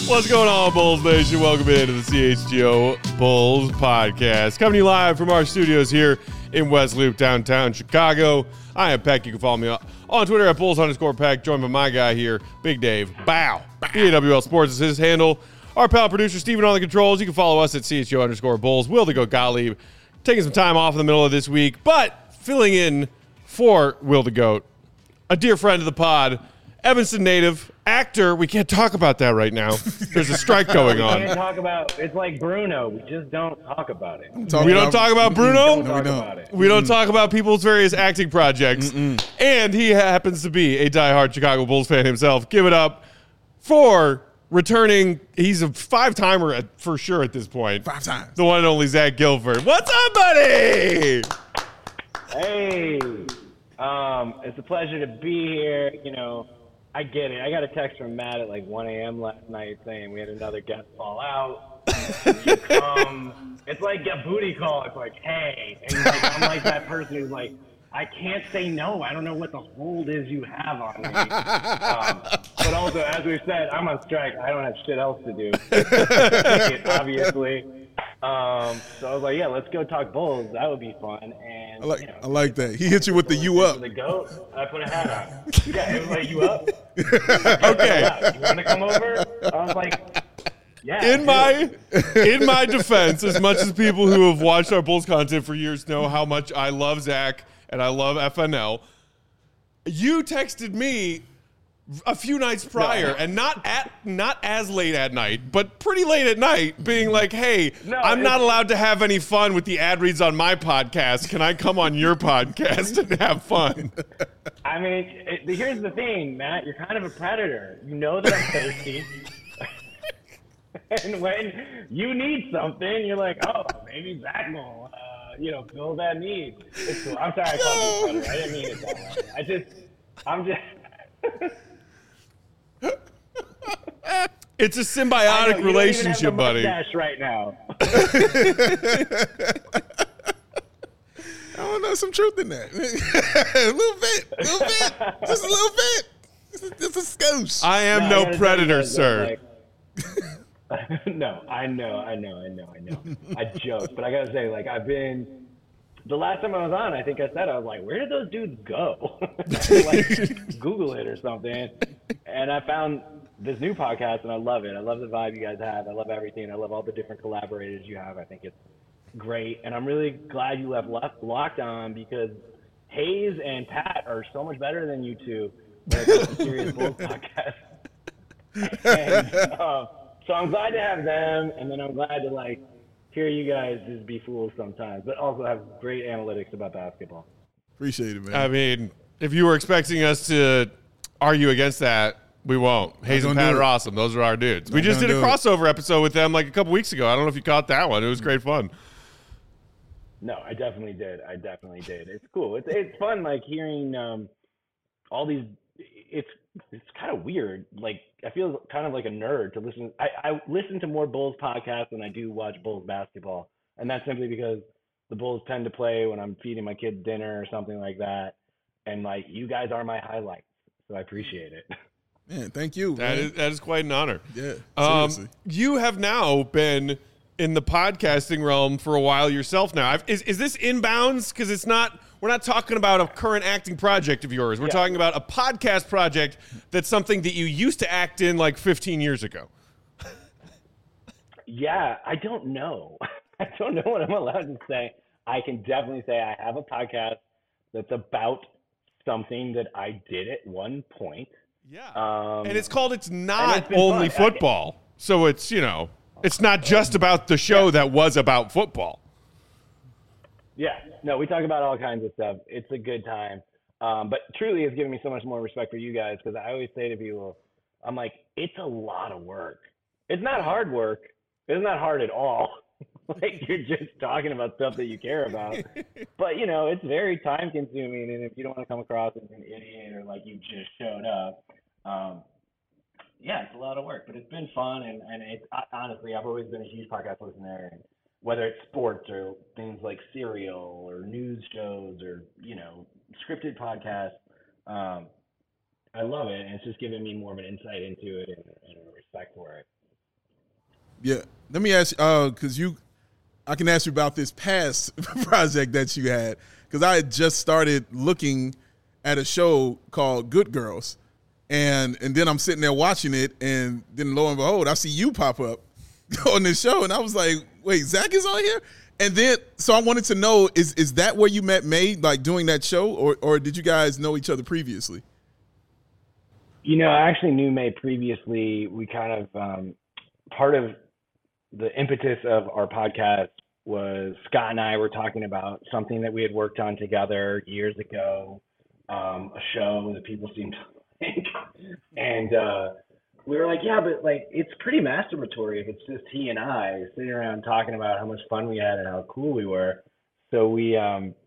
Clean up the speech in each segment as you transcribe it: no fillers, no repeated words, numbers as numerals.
What's going on, Bulls Nation? Welcome into the CHGO Bulls podcast. Coming to you live from our studios here in West Loop, downtown Chicago. I am Peck. You can follow me on Twitter at Bulls_Peck. Joined by my guy here, Big Dave. Bow. BAWL Sports is his handle. Our pal producer, Steven, on the controls. You can follow us at CHGO_Bulls. Will the Goat Gottlieb taking some time off in the middle of this week, but filling in for Will the Goat, a dear friend of the pod, Evanston native, actor. We can't talk about that right now. There's a strike going on. We can't talk about it's like Bruno. We just don't talk about it. We don't talk about Bruno? No, we don't. We don't talk about people's various acting projects. And he happens to be a diehard Chicago Bulls fan himself. Give it up for returning. He's a five-timer for sure at this point. 5 times. The one and only Zach Guilford. What's up, buddy? Hey, it's a pleasure to be here. You know, I get it. I got a text from Matt at like 1 a.m. last night saying we had another guest fall out. It's like a booty call. It's like, hey. And he's like, I'm like that person who's like, I can't say no. I don't know what the hold is you have on me. But also, as we've said, I'm on strike. I don't have shit else to do. Obviously. So I was like, yeah, let's go talk Bulls. That would be fun. And I like that. He hit you with the you up. The goat. I put a hat on. Yeah, everybody, you up? Okay. You want to come over? I was like, yeah. In my defense, as much as people who have watched our Bulls content for years know how much I love Zach and I love FNL, you texted me a few nights prior, and not as late at night, but pretty late at night, being like, hey, I'm not allowed to have any fun with the ad reads on my podcast. Can I come on your podcast and have fun? I mean, here's the thing, Matt. You're kind of a predator. You know that I'm thirsty. And when you need something, you're like, oh, maybe Zach will, fill that need. It's cool. I'm sorry I called you a predator. I didn't mean it that way. I'm just... It's a symbiotic relationship, buddy. Right now. I don't know, some truth in that. a little bit, just a little bit. Just a skosh. I am no predator, sir. No, I know. I joke, but I gotta say, the last time I was on, I think I said, I was like, where did those dudes go? Google it or something. And I found this new podcast, and I love it. I love the vibe you guys have. I love everything. I love all the different collaborators you have. I think it's great. And I'm really glad you left Locked On, because Hayes and Pat are so much better than you two when it comes to Serious Bulls podcast. And, so I'm glad to have them, and then I'm glad to, hear you guys just be fools sometimes, but also have great analytics about basketball. Appreciate it, man. I mean, if you were expecting us to argue against that, we won't. Hayes and Pat are awesome. Those are our dudes. We just did a crossover episode with them a couple weeks ago. I don't know if you caught that one. It was great fun. No, I definitely did. It's cool. It's fun, hearing all these. It's kind of weird. I feel kind of like a nerd to listen. I listen to more Bulls podcasts than I do watch Bulls basketball, and that's simply because the Bulls tend to play when I'm feeding my kids dinner or something like that. And you guys are my highlights, so I appreciate it. Man, thank you. That is quite an honor. Yeah, seriously. You have now been in the podcasting realm for a while yourself now. Is this inbounds? Because we're not talking about a current acting project of yours. We're talking about a podcast project that's something that you used to act in 15 years ago. Yeah, I don't know. I don't know what I'm allowed to say. I can definitely say I have a podcast that's about something that I did at one point. Yeah. And it's called It's Not Only Football. So it's, it's not just about the show that was about football. Yeah. No, we talk about all kinds of stuff. It's a good time. But truly, it's given me so much more respect for you guys, because I always say to people, I'm like, it's a lot of work. It's not hard work. It's not hard at all. You're just talking about stuff that you care about. But, it's very time consuming. And if you don't want to come across as an idiot or you just showed up, it's a lot of work. But it's been fun. And it's, honestly, I've always been a huge podcast listener. And whether it's sports or things like Serial or news shows or, scripted podcasts, I love it. And it's just given me more of an insight into it and a respect for it. Yeah. Let me ask you, because I can ask you about this past project that you had, because I had just started looking at a show called Good Girls, and then I'm sitting there watching it, and then lo and behold, I see you pop up on this show, and I was like, wait, Zach is on here? And then, so I wanted to know, is that where you met May, like doing that show, or did you guys know each other previously? I actually knew May previously. We kind of, part of the impetus of our podcast was Scott and I were talking about something that we had worked on together years ago, a show that people seemed to like. And we were like, yeah, but like it's pretty masturbatory if it's just he and I sitting around talking about how much fun we had and how cool we were. So we,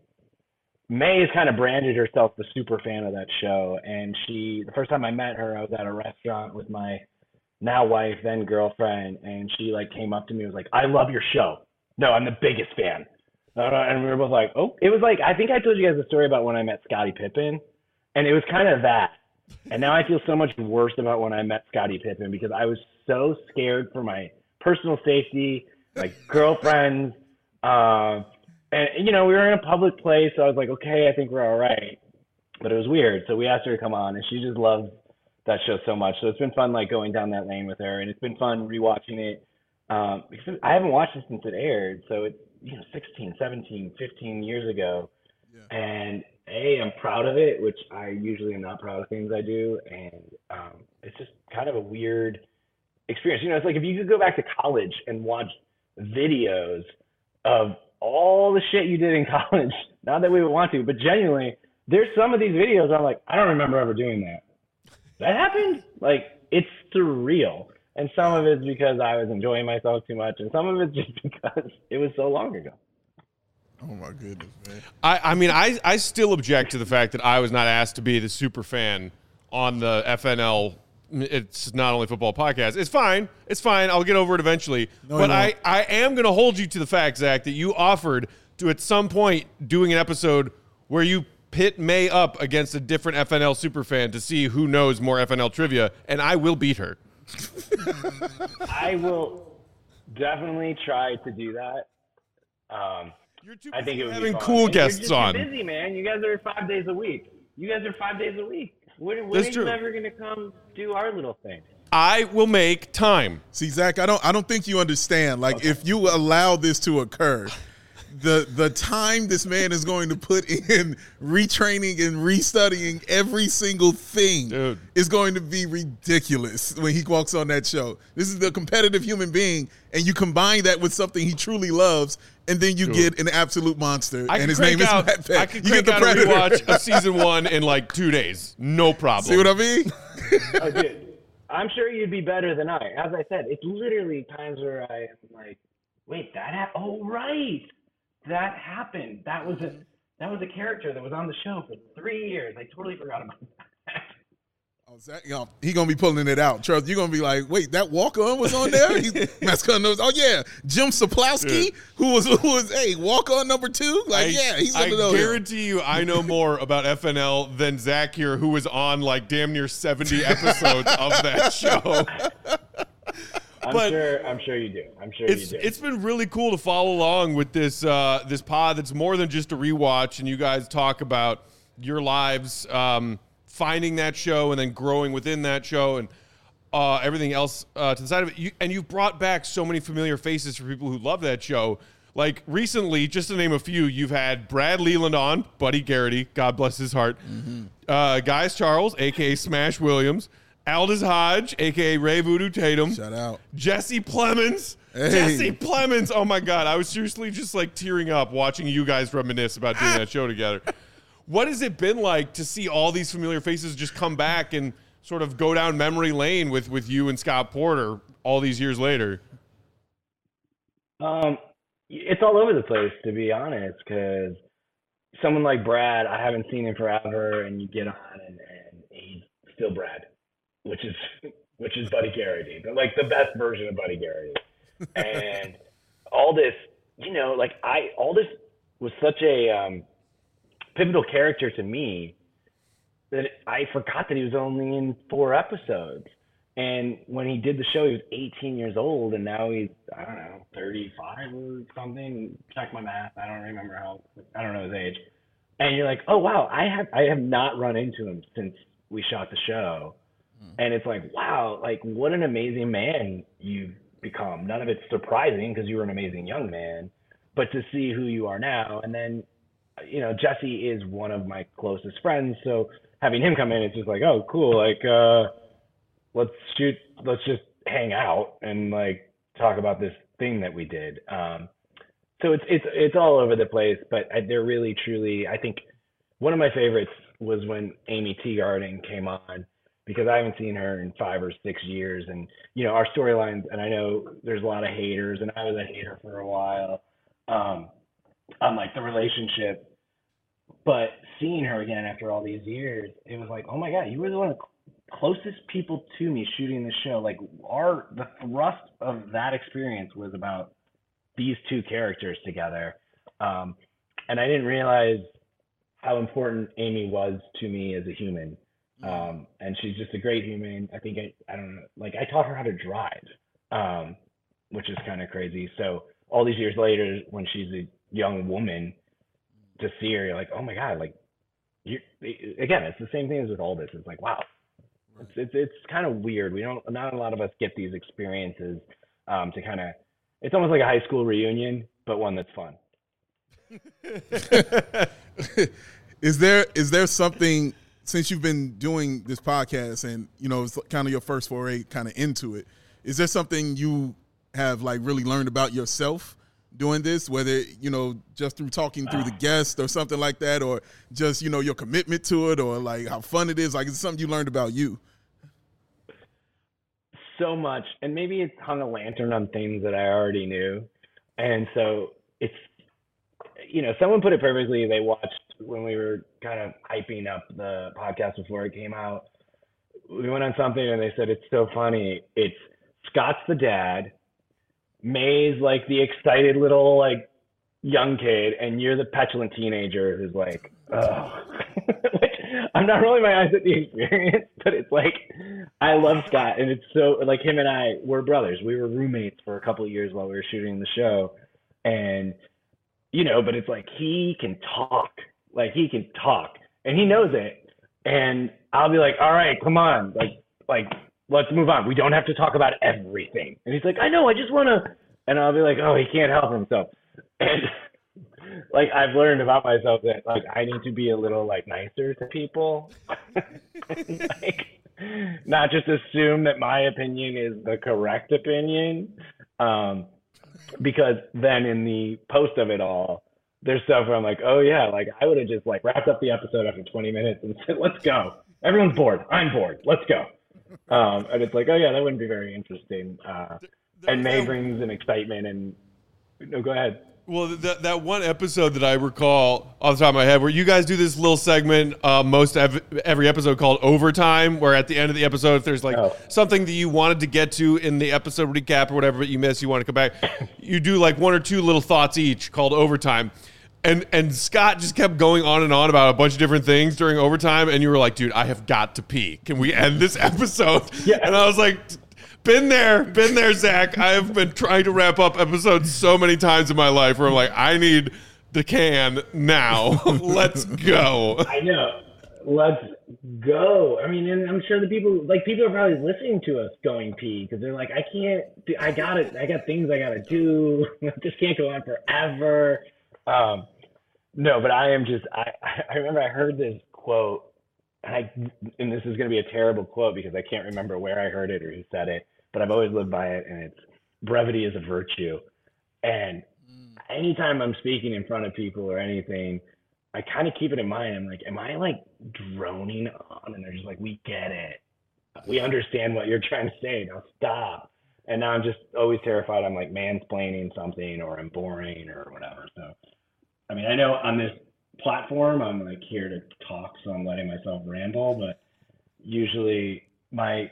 May has kind of branded herself the super fan of that show. And the first time I met her, I was at a restaurant with my now wife, then girlfriend, and she like came up to me and was like, I love your show. No, I'm the biggest fan. And we were both like, oh, it was like, I think I told you guys a story about when I met Scottie Pippen, and it was kind of that. And now I feel so much worse about when I met Scottie Pippen because I was so scared for my personal safety, my girlfriends, and we were in a public place, so I was like, okay, I think we're all right. But it was weird. So we asked her to come on, and she just loves that show so much. So it's been fun like going down that lane with her, and it's been fun rewatching it because I haven't watched it since it aired. So it's 16, 17, 15 years ago. Yeah. And I'm proud of it, which I usually am not proud of things I do. And it's just kind of a weird experience. It's like if you could go back to college and watch videos of all the shit you did in college, not that we would want to, but genuinely, there's some of these videos I'm like, I don't remember ever doing that. That happened? Like, it's surreal. And some of it's because I was enjoying myself too much, and some of it's just because it was so long ago. Oh, my goodness, man. I still object to the fact that I was not asked to be the super fan on the FNL It's Not Only Football podcast. It's fine. It's fine. I'll get over it eventually. But I am going to hold you to the fact, Zach, that you offered to at some point doing an episode where you pit May up against a different FNL superfan to see who knows more FNL trivia, and I will beat her. I will definitely try to do that. You're too I think it would having be fun. cool And guests you're on. Too busy, man. You guys are 5 days a week. When are you ever going to come do our little thing? I will make time. See, Zach, I don't think you understand. Like, if you allow this to occur, the time this man is going to put in retraining and restudying every single thing is going to be ridiculous when he walks on that show. This is the competitive human being, and you combine that with something he truly loves, and then you get an absolute monster, and his name is Matt Peck. I could crank out a rewatch of season 1 in like 2 days. No problem. See what I mean? I did. I'm sure you'd be better than I. As I said, it's literally times where I am like, wait, that happened? Oh, right. That happened. That was a character that was on the show for 3 years. I totally forgot about that. Oh, Zach, he gonna be pulling it out. Charles, you're gonna be like, wait, that walk-on was on there? Mascot knows. Oh yeah, Jim Saplowski, who was walk-on number 2. Like, he's gonna know. I guarantee you, I know more about FNL than Zach here, who was on like damn near 70 episodes of that show. I'm sure you do. It's been really cool to follow along with this this pod that's more than just a rewatch, and you guys talk about your lives finding that show and then growing within that show and everything else to the side of it. You've brought back so many familiar faces for people who love that show. Like recently, just to name a few, you've had Brad Leland on, Buddy Garrity, God bless his heart, Guys Charles, a.k.a. Smash Williams, Aldous Hodge, a.k.a. Ray Voodoo Tatum. Shout out. Jesse Plemons. Hey. Jesse Plemons. Oh, my God. I was seriously just, like, tearing up watching you guys reminisce about doing that show together. What has it been like to see all these familiar faces just come back and sort of go down memory lane with you and Scott Porter all these years later? It's all over the place, to be honest, because someone like Brad, I haven't seen him forever, and you get on, and he's still Brad. Which is Buddy Garrity, but like the best version of Buddy Garrity. And all this, all this was such a pivotal character to me that I forgot that he was only in 4 episodes. And when he did the show, he was 18 years old, and now he's, I don't know, 35 or something. Check my math. I don't remember I don't know his age. And you're like, oh wow, I have not run into him since we shot the show. And it's like, wow, like what an amazing man you've become. None of it's surprising because you were an amazing young man, but to see who you are now. And then, you know, Jesse is one of my closest friends, so having him come in, it's just like, oh, cool, like, let's just hang out and like talk about this thing that we did. So it's all over the place, but they're really, truly, I think one of my favorites was when Amy Teagarden came on, because I haven't seen her in 5 or 6 years. And, you know, our storylines, and I know there's a lot of haters, and I was a hater for a while, on like the relationship, but seeing her again after all these years, it was like, oh my God, you were the one of the closest people to me shooting the show. Like the thrust of that experience was about these two characters together. And I didn't realize how important Amy was to me as a human. And she's just a great human. I think I don't know, like I taught her how to drive, which is kind of crazy. So all these years later, when she's a young woman, to see her, you're like, oh my God, like again, it's the same thing as with all this. It's like, wow, it's kind of weird. Not a lot of us get these experiences, to kind of, it's almost like a high school reunion, but one that's fun. Is there something, since you've been doing this podcast and, you know, it's kind of your first foray kind of into it, is there something you have like really learned about yourself doing this, whether, you know, just through talking through the guest or something like that, or just, you know, your commitment to it, or like how fun it is? Like, it's something you learned about you? So much. And maybe it's hung a lantern on things that I already knew. And so it's, you know, someone put it perfectly. They watched when we were kind of hyping up the podcast before it came out. We went on something and they said, it's so funny. It's Scott's the dad, May's like the excited little like young kid, and you're the petulant teenager who's like, oh. Which, I'm not rolling my eyes at the experience, but it's like, I love Scott, and it's so, like, him and I were brothers. We were roommates for a couple of years while we were shooting the show, and, you know, but it's like, he can talk, and he knows it, and I'll be like, all right, come on, like, let's move on. We don't have to talk about everything. And he's like, I know, I just want to, and I'll be like, oh, he can't help himself. And like, I've learned about myself that like, I need to be a little like nicer to people. Like, not just assume that my opinion is the correct opinion. Because then in the post of it all, there's stuff where I'm like, oh yeah, like I would have just like wrapped up the episode after 20 minutes and said, let's go. Everyone's bored. I'm bored. Let's go. And it's like, oh yeah, that wouldn't be very interesting. And May brings an excitement, and no, go ahead. Well, that one episode that I recall off the top of my head, where you guys do this little segment every episode called Overtime, where at the end of the episode, if there's like something that you wanted to get to in the episode recap or whatever, but you missed, you want to come back, you do like 1 or 2 little thoughts each called Overtime. And Scott just kept going on and on about a bunch of different things during Overtime, and you were like, dude, I have got to pee. Can we end this episode? Yeah. And I was like, been there, Zach. I have been trying to wrap up episodes so many times in my life where I'm like, I need the can now. Let's go. I know. Let's go. I mean, and I'm sure the people are probably listening to us going pee because they're like, I got things I got to do. I just can't go on forever. No, but I remember I heard this quote, and this is going to be a terrible quote because I can't remember where I heard it or who said it, but I've always lived by it, and it's brevity is a virtue. And anytime I'm speaking in front of people or anything, I kind of keep it in mind. I'm like, am I like droning on? And they're just like, we get it. We understand what you're trying to say. Now stop. And now I'm just always terrified. I'm like mansplaining something, or I'm boring or whatever. So, I mean, I know on this platform, I'm like here to talk, so I'm letting myself ramble, but usually my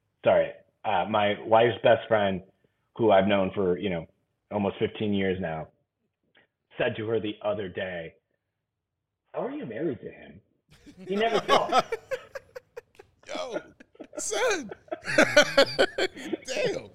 wife's best friend, who I've known for, almost 15 years now, said to her the other day, how are you married to him? He never talks. Yo, son. Damn.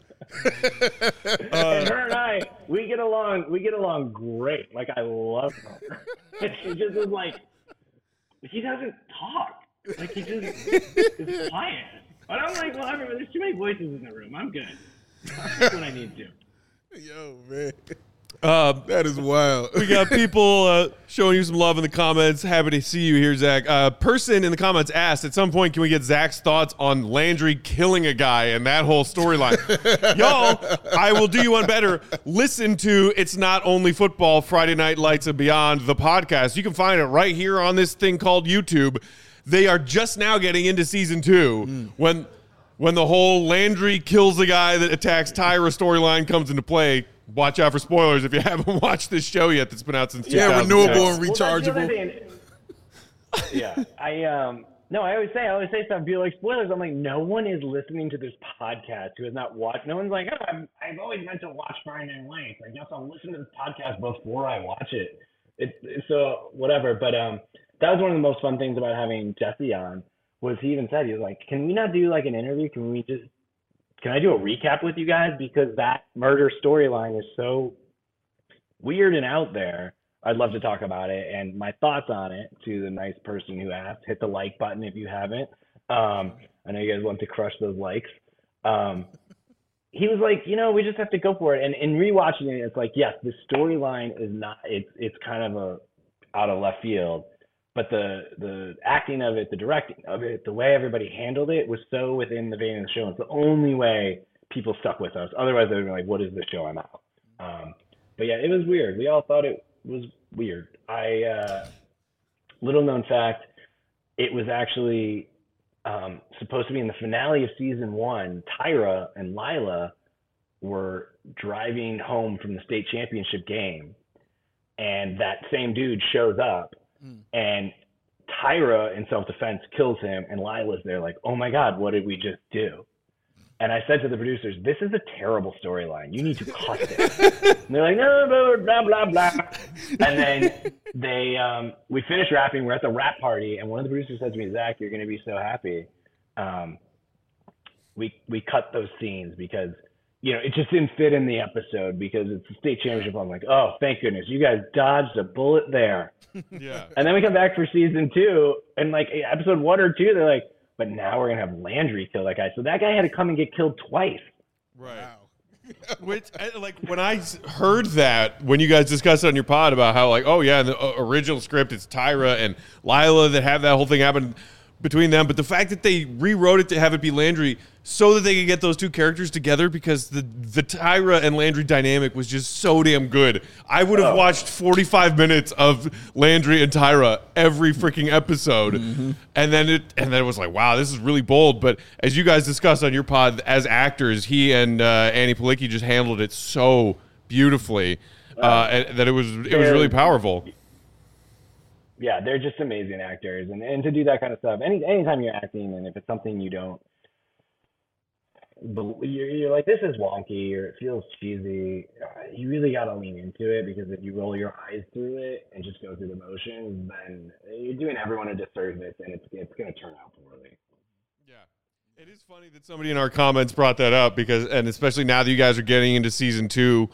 And her and I, we get along great. Like, I love her. And she just is like, he doesn't talk. Like, he just is quiet. But I'm like, well, there's too many voices in the room. I'm good. That's what I need to. Yo, man. That is wild. We got people showing you some love in the comments. Happy to see you here, Zach. Person in the comments asked, at some point, can we get Zach's thoughts on Landry killing a guy and that whole storyline? Y'all, I will do you one better. Listen to It's Not Only Football, Friday Night Lights and Beyond, the podcast. You can find it right here on this thing called YouTube. They are just now getting into season 2 when the whole Landry kills the guy that attacks Tyra storyline comes into play. Watch out for spoilers if you haven't watched this show yet that's been out since 2006. Renewable and rechargeable. Yeah, I always say stuff, be like, spoilers. I'm like, no one is listening to this podcast who has not watched. No one's like, oh, I've always meant to watch Friday Night Lights. I guess I'll listen to this podcast before I watch it. So whatever. But that was one of the most fun things about having Jesse on. Was he even said, he was like, can we not do like an interview? Can I do a recap with you guys? Because that murder storyline is so weird and out there. I'd love to talk about it and my thoughts on it to the nice person who asked. Hit the like button if you haven't. I know you guys want to crush those likes. He was like, we just have to go for it. And in rewatching it, it's like, yes, the storyline is not, it's kind of out of left field. But the acting of it, the directing of it, the way everybody handled it was so within the vein of the show. It's the only way people stuck with us. Otherwise, they'd be like, what is this show? I'm out. But yeah, it was weird. We all thought it was weird. Little known fact, it was actually supposed to be in the finale of season 1. Tyra and Lila were driving home from the state championship game. And that same dude shows up. And Tyra, in self-defense, kills him, and Lila's there like, oh my God, what did we just do? And I said to the producers, this is a terrible storyline. You need to cut it. And they're like, no, blah, blah, blah. And then we finished rapping. We're at the rap party, and one of the producers said to me, Zach, you're going to be so happy. We cut those scenes because it just didn't fit in the episode because it's the state championship. I'm like, oh, thank goodness. You guys dodged a bullet there. Yeah. And then we come back for season 2 and like episode 1 or 2, they're like, but now we're going to have Landry kill that guy. So that guy had to come and get killed twice. Right. Wow. Which, like, when I heard that, when you guys discussed it on your pod about how, like, oh, yeah, in the original script, it's Tyra and Lila that have that whole thing happen between them. But the fact that they rewrote it to have it be Landry so that they could get those two characters together because the Tyra and Landry dynamic was just so damn good. I would have watched 45 minutes of Landry and Tyra every freaking episode. Mm-hmm. And then it was like, wow, this is really bold. But as you guys discussed on your pod, as actors, he and Annie Palicki just handled it so beautifully and that it was really powerful. Yeah, they're just amazing actors, and to do that kind of stuff, anytime you're acting, and if it's something you don't, you're like, this is wonky, or it feels cheesy, you really got to lean into it, because if you roll your eyes through it and just go through the motions, then you're doing everyone a disservice, and it's going to turn out poorly. Yeah, it is funny that somebody in our comments brought that up, and especially now that you guys are getting into season 2,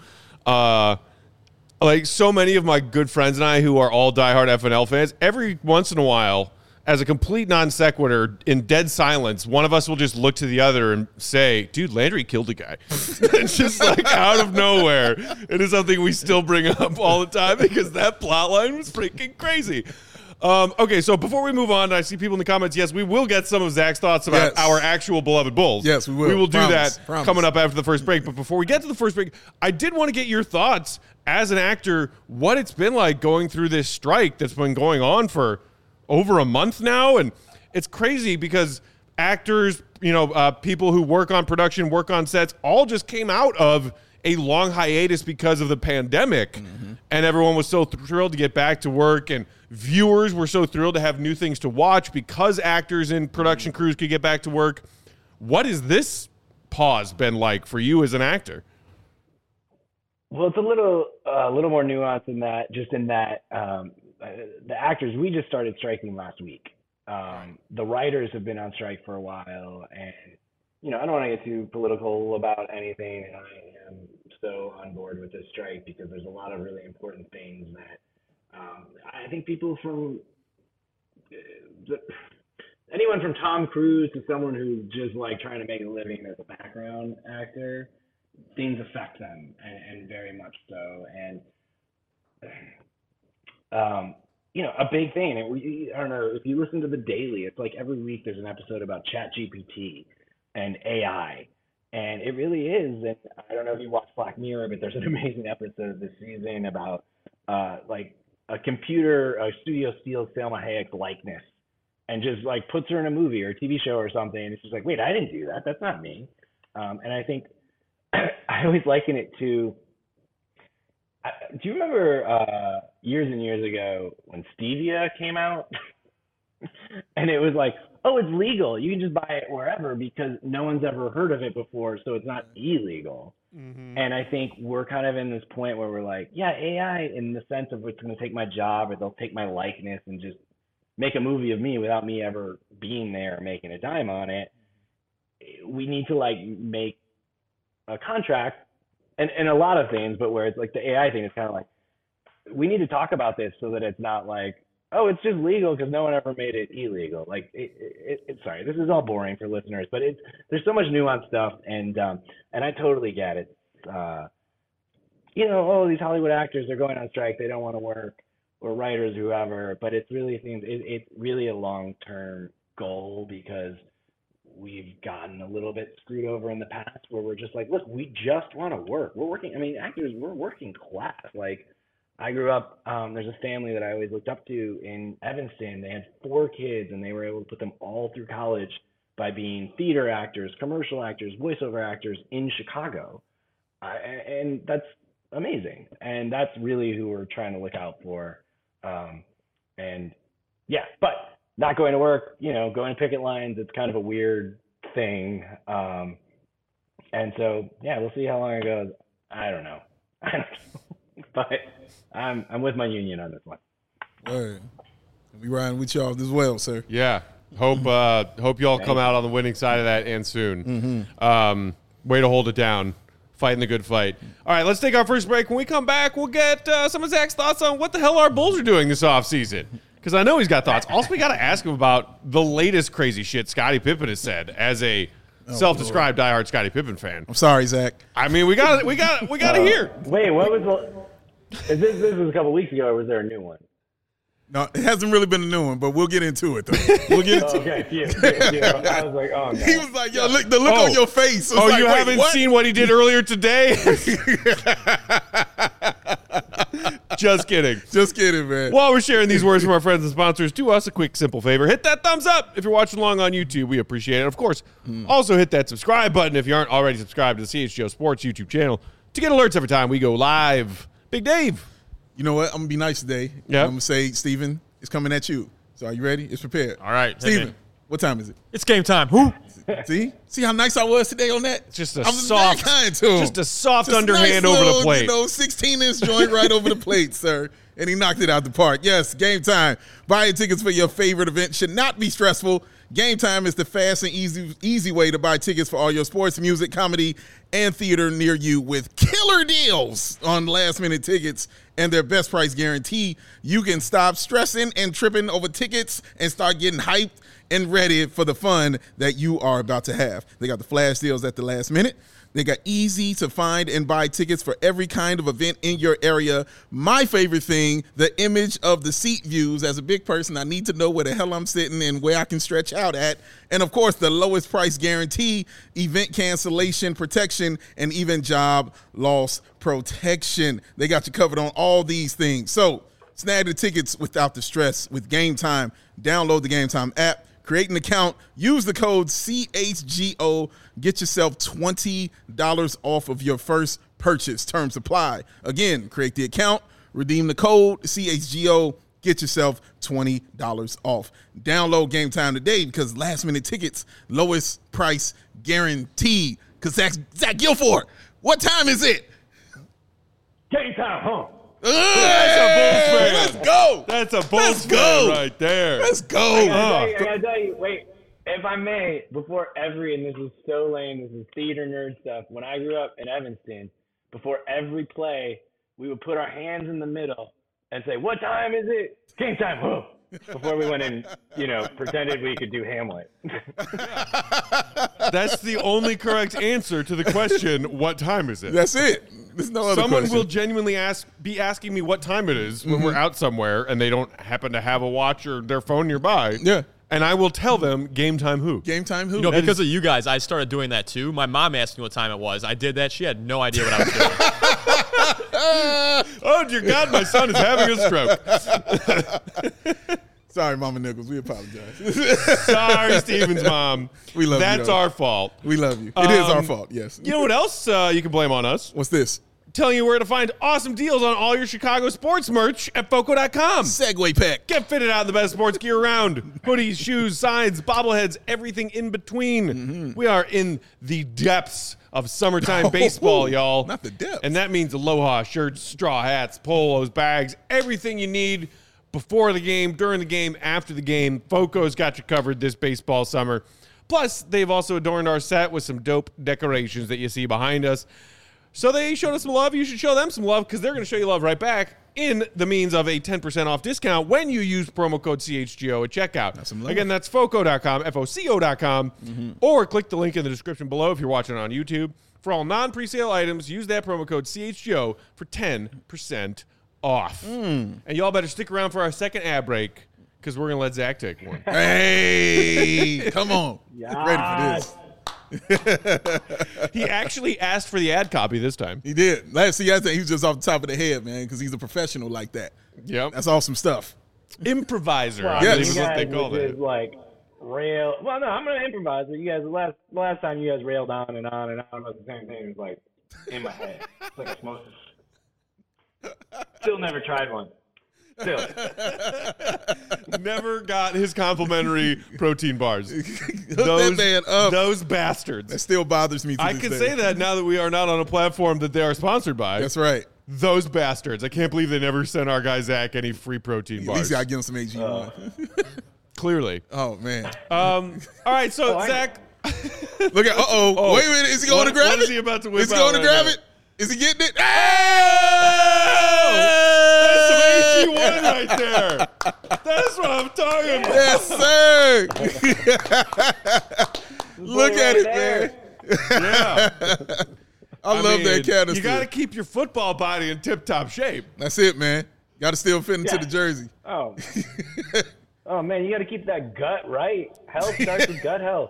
like so many of my good friends and I who are all diehard FNL fans, every once in a while, as a complete non sequitur, in dead silence, one of us will just look to the other and say, dude, Landry killed a guy. It's just like out of nowhere. It is something we still bring up all the time because that plot line was freaking crazy. Okay, so before we move on, I see people in the comments. Yes, we will get some of Zach's thoughts about our actual beloved Bulls. Yes, we will. We will do that coming up after the first break. But before we get to the first break, I did want to get your thoughts as an actor, what it's been like going through this strike that's been going on for over a month now. And it's crazy because actors, people who work on production, work on sets, all just came out of a long hiatus because of the pandemic. Mm-hmm. And everyone was so thrilled to get back to work, and viewers were so thrilled to have new things to watch because actors and production crews could get back to work. What has this pause been like for you as an actor? Well, it's a little more nuanced than that, just in that the actors, we just started striking last week. The writers have been on strike for a while, and I don't want to get too political about anything, and I am so on board with this strike because there's a lot of really important things that I think people from anyone from Tom Cruise to someone who's just like trying to make a living as a background actor, things affect them, and very much so. And a big thing. And I don't know if you listen to The Daily. It's like every week there's an episode about ChatGPT and AI, and it really is. And I don't know if you watch Black Mirror, but there's an amazing episode this season about like a studio steals Salma Hayek's likeness and just like puts her in a movie or a TV show or something. And it's just like, wait, I didn't do that. That's not me. And I think I always liken it to. Do you remember years and years ago when Stevia came out? And it was like, oh, it's legal. You can just buy it wherever because no one's ever heard of it before, so it's not illegal. Mm-hmm. And I think we're kind of in this point where we're like, yeah, AI in the sense of it's going to take my job or they'll take my likeness and just make a movie of me without me ever being there making a dime on it. We need to like make a contract and a lot of things, but where it's like the AI thing is kind of like, we need to talk about this so that it's not like, oh, it's just legal because no one ever made it illegal. Like, sorry, this is all boring for listeners, but there's so much nuanced stuff, and I totally get it. These Hollywood actors are going on strike, they don't want to work, or writers, whoever, but it's really a long-term goal because we've gotten a little bit screwed over in the past where we're just like, look, we just want to work. Actors, we're working class. Like, I grew up, there's a family that I always looked up to in Evanston. They had 4 kids, and they were able to put them all through college by being theater actors, commercial actors, voiceover actors in Chicago. And that's amazing. And that's really who we're trying to look out for. But not going to work, going to picket lines, it's kind of a weird thing. And so, we'll see how long it goes. I don't know. But I'm with my union on this one. All right. We riding with y'all as well, sir. Yeah. Hope y'all come out on the winning side of that and soon. Mm-hmm. Way to hold it down. Fighting the good fight. All right, let's take our first break. When we come back, we'll get some of Zach's thoughts on what the hell our Bulls are doing this offseason. Because I know he's got thoughts. Also, we got to ask him about the latest crazy shit Scottie Pippen has said as a self-described diehard Scottie Pippen fan. I'm sorry, Zach. I mean, we got to hear. Wait, what was this was a couple weeks ago, or was there a new one? No, it hasn't really been a new one, but we'll get into it, though. We'll get into it. Okay, I was like, oh, no. He was like, yo, look, the look on your face. Oh, like, you haven't seen what he did earlier today? Just kidding. Just kidding, man. While we're sharing these words from our friends and sponsors, do us a quick, simple favor. Hit that thumbs up if you're watching along on YouTube. We appreciate it. Of course, also hit that subscribe button if you aren't already subscribed to the CHGO Sports YouTube channel to get alerts every time we go live. Big Dave. You know what? I'm going to be nice today. Yeah. I'm going to say, Steven, it's coming at you. So are you ready? It's prepared. All right. Steven, what time is it? It's game time. Who? See how nice I was today on that? It's just a soft underhand nice over little, the plate. 16-inch joint right over the plate, sir. And he knocked it out the park. Yes, Game Time. Buying tickets for your favorite event should not be stressful. Game Time is the fast and easy way to buy tickets for all your sports, music, comedy, and theater near you with killer deals on last-minute tickets and their best price guarantee. You can stop stressing and tripping over tickets and start getting hyped and ready for the fun that you are about to have. They got the flash deals at the last minute. They got easy to find and buy tickets for every kind of event in your area. My favorite thing, the image of the seat views. As a big person, I need to know where the hell I'm sitting and where I can stretch out at. And, of course, the lowest price guarantee, event cancellation protection, and even job loss protection. They got you covered on all these things. So snag the tickets without the stress with Game Time. Download the Game Time app. Create an account, use the code CHGO, get yourself $20 off of your first purchase. Terms apply. Again, create the account, redeem the code CHGO, get yourself $20 off. Download Game Time today because last-minute tickets, lowest price guaranteed. Because Zach Guilford, what time is it? Game Time, huh? That's a Bulls fan. Let's go. That's a Bulls fan right there. Let's go. I gotta tell you, wait. If I may, and this is so lame, this is theater nerd stuff. When I grew up in Evanston, before every play, we would put our hands in the middle and say, "What time is it? Game time!" Whoa. Before we went and, pretended we could do Hamlet. That's the only correct answer to the question, what time is it? That's it. There's no other Someone question. will genuinely be asking me what time it is when we're out somewhere and they don't happen to have a watch or their phone nearby. Yeah. And I will tell them game time who. Game time who? Because of you guys, I started doing that too. My mom asked me what time it was. I did that. She had no idea what I was doing. Oh, dear God, my son is having a stroke. Sorry, Mama Nichols. We apologize. Sorry, Steven's mom. We love you, That's though. our fault. We love you. It is our fault, yes. You know what else you can blame on us? What's this? Telling you where to find awesome deals on all your Chicago sports merch at Foco.com. Segway pack. Get fitted out in the best sports gear around. Hoodies, shoes, signs, bobbleheads, everything in between. We are in the depths of summertime baseball, y'all. Not the depths. And that means aloha shirts, straw hats, polos, bags, everything you need before the game, during the game, after the game. Foco's got you covered this baseball summer. Plus, they've also adorned our set with some dope decorations that you see behind us. So they showed us some love. You should show them some love because they're going to show you love right back in the means of a 10% off discount when you use promo code CHGO at checkout. That's some love. Again, that's Foco.com, Foco.com, or click the link in the description below if you're watching on YouTube. For all non-presale items, use that promo code CHGO for 10% off. And y'all better stick around for our second ad break because we're going to let Zach take one. Hey, come on. Yes. Ready for this. He actually asked for the ad copy this time. He did. Last see, I think he was just off the top of the head, man, because he's a professional like that. Yep. That's awesome stuff. Improviser, I Yes. believe is you what guys they call would it. just, like, rail. Well, no, I'm gonna improvise. But you guys, last time you guys railed on and on and on about the same thing. It was like in my head. It's like osmosis. Still never tried one. Still. Never got his complimentary protein bars. That man up. Those That bastards. still bothers me to I this can day. say that now that we are not on a platform that they are sponsored by. That's right. Those bastards. I can't believe they never sent our guy Zach any free protein At bars. least I give him some AG1. Clearly. Oh, man. All right, so Zach. Look at, Oh. wait a minute. Is he going to grab What it? is he about to whip Is he out going to right grab now? it? Is he getting it? That's some AG1 right there. That's what I'm talking about. Yes, sir. Look Boy, at right it, there. man. Yeah. I love mean, that canister. You got to keep your football body in tip-top shape. That's it, man. Got to still fit into Yeah. the jersey. Oh. Oh man, you got to keep that gut right. Health starts with gut health.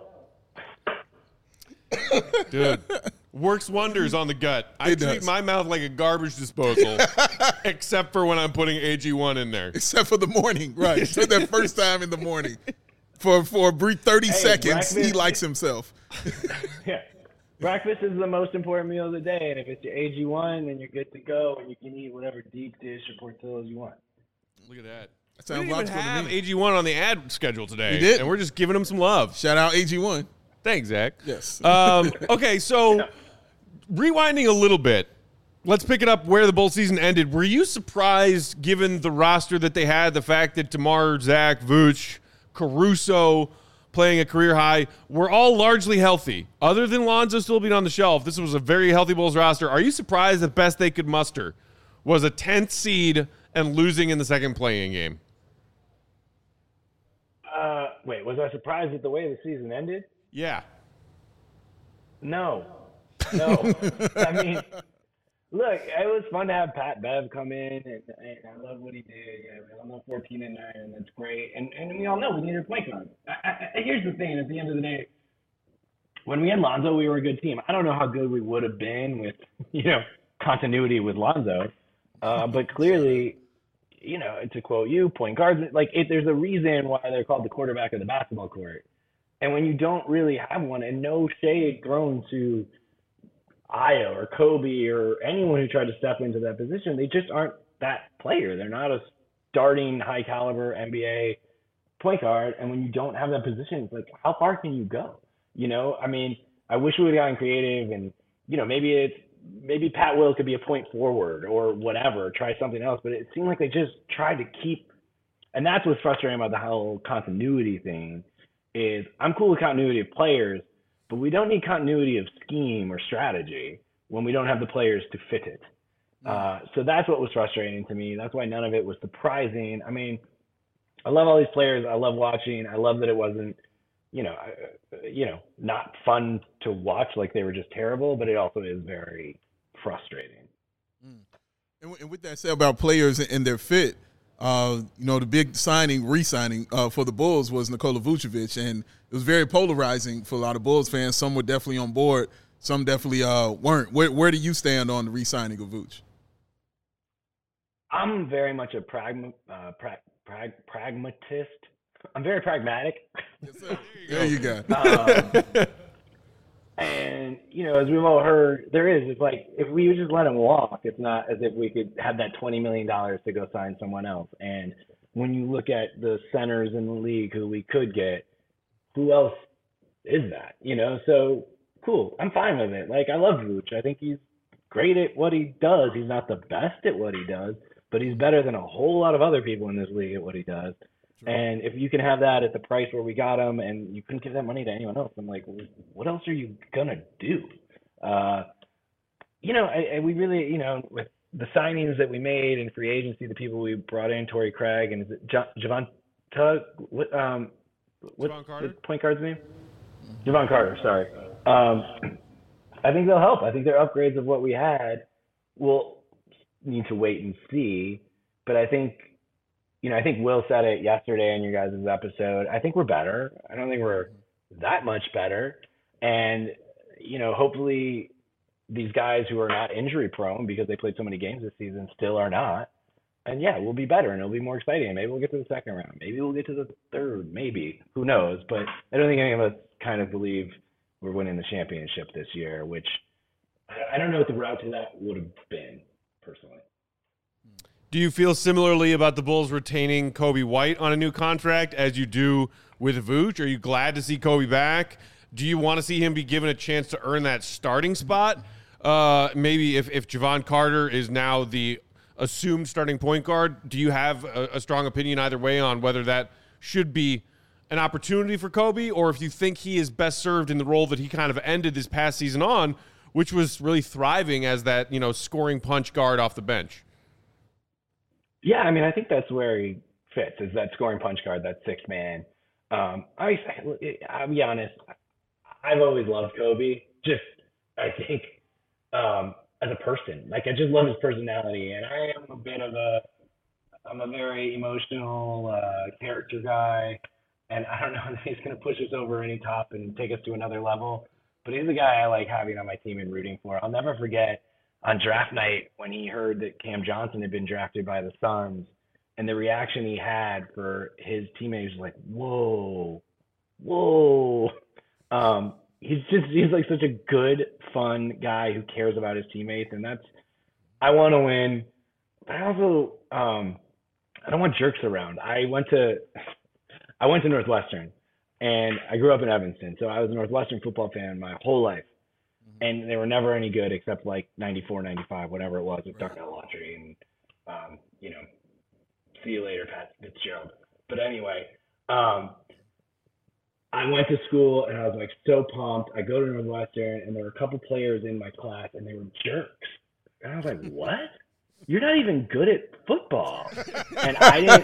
Dude, works wonders on the gut. I It treat does. my mouth like a garbage disposal, except for when I'm putting AG1 in there. Except for the morning, right? For that first time in the morning. For a brief 30 seconds, he breakfast- likes himself. Yeah. Breakfast is the most important meal of the day, and if it's your AG1, then you're good to go, and you can eat whatever deep dish or portillos you want. Look at that. That We sounds didn't even logical to have me. AG1 on the ad schedule today. We did. And we're just giving him some love. Shout out AG1. Thanks, Zach. Yes. Okay, so rewinding a little bit, let's pick it up where the bowl season ended. Were you surprised, given the roster that they had, the fact that Tamar, Zach, Vooch, Caruso playing a career high were all largely healthy? Other than Lonzo still being on the shelf, this was a very healthy Bulls roster. Are you surprised the best they could muster was a 10th seed and losing in the second playing game? Wait, was I surprised at the way the season ended? Yeah. No. I mean, look, it was fun to have Pat Bev come in, and I love what he did. Yeah, we all know 14-9, and that's great. And we all know we needed a point guard. Here's the thing: at the end of the day, when we had Lonzo, we were a good team. I don't know how good we would have been with, continuity with Lonzo, but clearly, to quote you, point guards, there's a reason why they're called the quarterback of the basketball court. And when you don't really have one, and no shade thrown to Aya or Kobe or anyone who tried to step into that position, they just aren't that player. They're not a starting high caliber NBA point guard. And when you don't have that position, it's like, how far can you go? I mean, I wish we would have gotten creative, and maybe Pat Will could be a point forward or whatever, try something else. But it seemed like they just tried to keep, and that's what's frustrating about the whole continuity thing, is I'm cool with continuity of players, but we don't need continuity of scheme or strategy when we don't have the players to fit it. So that's what was frustrating to me. That's why none of it was surprising. I mean, I love all these players. I love watching. I love that it wasn't, not fun to watch, like they were just terrible, but it also is very frustrating. And with that said about players and their fit, the big re-signing for the Bulls was Nikola Vucevic, and it was very polarizing for a lot of Bulls fans. Some were definitely on board, some definitely weren't. Where do you stand on the re-signing of Vuce? I'm very much a pragmatist. I'm very pragmatic. Yes, sir. There you go. And, as we've all heard, it's like if we just let him walk, it's not as if we could have that $20 million to go sign someone else. And when you look at the centers in the league who we could get, who else is that? So cool. I'm fine with it. Like, I love Vooch. I think he's great at what he does. He's not the best at what he does, but he's better than a whole lot of other people in this league at what he does. Sure. And if you can have that at the price where we got him and you couldn't give that money to anyone else, I'm like, what else are you going to do? We really, with the signings that we made in free agency, the people we brought in, Torrey Craig, and is it Javon Carter? What's the point guard's name? Javon Carter, sorry. I think they'll help. I think they're upgrades of what we had. We'll need to wait and see. But I think Will said it yesterday on your guys' episode. I think we're better. I don't think we're that much better. And, hopefully these guys who are not injury prone because they played so many games this season still are not. And yeah, we'll be better and it'll be more exciting. Maybe we'll get to the second round. Maybe we'll get to the third, maybe. Who knows? But I don't think any of us kind of believe we're winning the championship this year, which I don't know what the route to that would have been, personally. Do you feel similarly about the Bulls retaining Coby White on a new contract as you do with Vooch? Are you glad to see Coby back? Do you want to see him be given a chance to earn that starting spot? Maybe if Javon Carter is now the assumed starting point guard, do you have a strong opinion either way on whether that should be an opportunity for Coby, or if you think he is best served in the role that he kind of ended this past season on, which was really thriving as that, scoring punch guard off the bench? Yeah, I mean, I think that's where he fits, is that scoring punch guard, that sixth man. I'll be honest, I've always loved Coby. I think, as a person, I just love his personality, and I am I'm a very emotional character guy, and I don't know if he's going to push us over any top and take us to another level, but he's the guy I like having on my team and rooting for. I'll never forget on draft night when he heard that Cam Johnson had been drafted by the Suns, and the reaction he had for his teammates was like, whoa. He's like such a good, fun guy who cares about his teammates, and I want to win, but I also I don't want jerks around. I went to Northwestern, and I grew up in Evanston, so I was a Northwestern football fan my whole life. And they were never any good except like 94, 95, whatever it was with Darnell Autry and, see you later, Pat Fitzgerald. But anyway, I went to school and I was like so pumped. I go to Northwestern and there were a couple players in my class and they were jerks. And I was like, what? You're not even good at football. And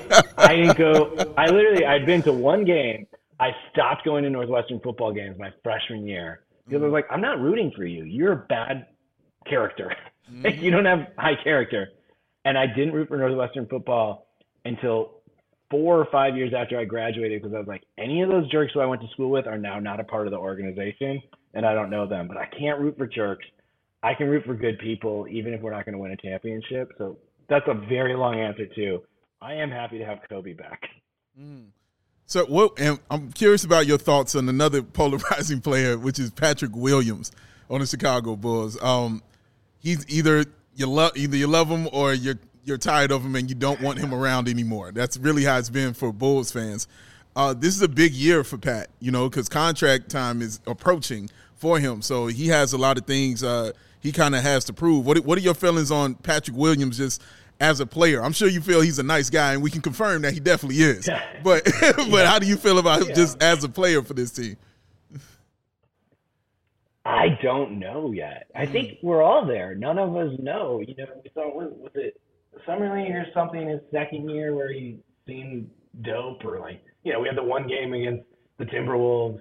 I'd been to one game. I stopped going to Northwestern football games my freshman year. Because I was like, I'm not rooting for you. You're a bad character. You don't have high character. And I didn't root for Northwestern football until 4 or 5 years after I graduated, because I was like, any of those jerks who I went to school with are now not a part of the organization, and I don't know them. But I can't root for jerks. I can root for good people, even if we're not going to win a championship. So that's a very long answer, too. I am happy to have Coby back. So and I'm curious about your thoughts on another polarizing player, which is Patrick Williams on the Chicago Bulls. He's either you love him or you're tired of him and you don't want him around anymore. That's really how it's been for Bulls fans. This is a big year for Pat, because contract time is approaching for him. So he has a lot of things he kind of has to prove. What are your feelings on Patrick Williams just as a player? I'm sure you feel he's a nice guy, and we can confirm that he definitely is. But but how do you feel about him just as a player for this team? I don't know yet. I think we're all there. None of us know. You know, we saw, was it Summer League or something his second year where he seemed dope, or like, you know, we had the one game against the Timberwolves.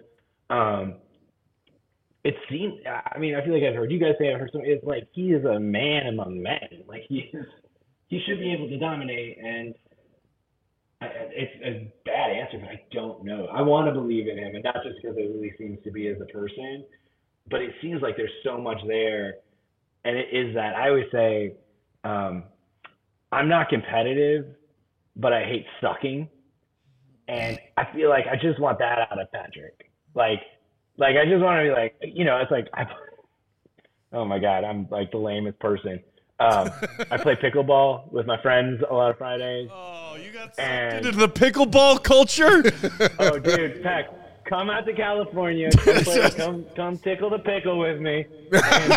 It seemed, I mean, I feel like I've heard you guys say, I've heard some, it's like he is a man among men. Like he should be able to dominate, and it's a bad answer, but I don't know. I want to believe in him, and not just because it really seems to be as a person, but it seems like there's so much there. And it is that I always say, I'm not competitive, but I hate sucking. And I feel like I just want that out of Patrick. Like I just want to be like, you know, it's like, oh my God, I'm like the lamest person. I play pickleball with my friends a lot of Fridays. Oh, you got sucked into the pickleball culture? Oh, dude, Peck, come out to California. Come tickle the pickle with me. And,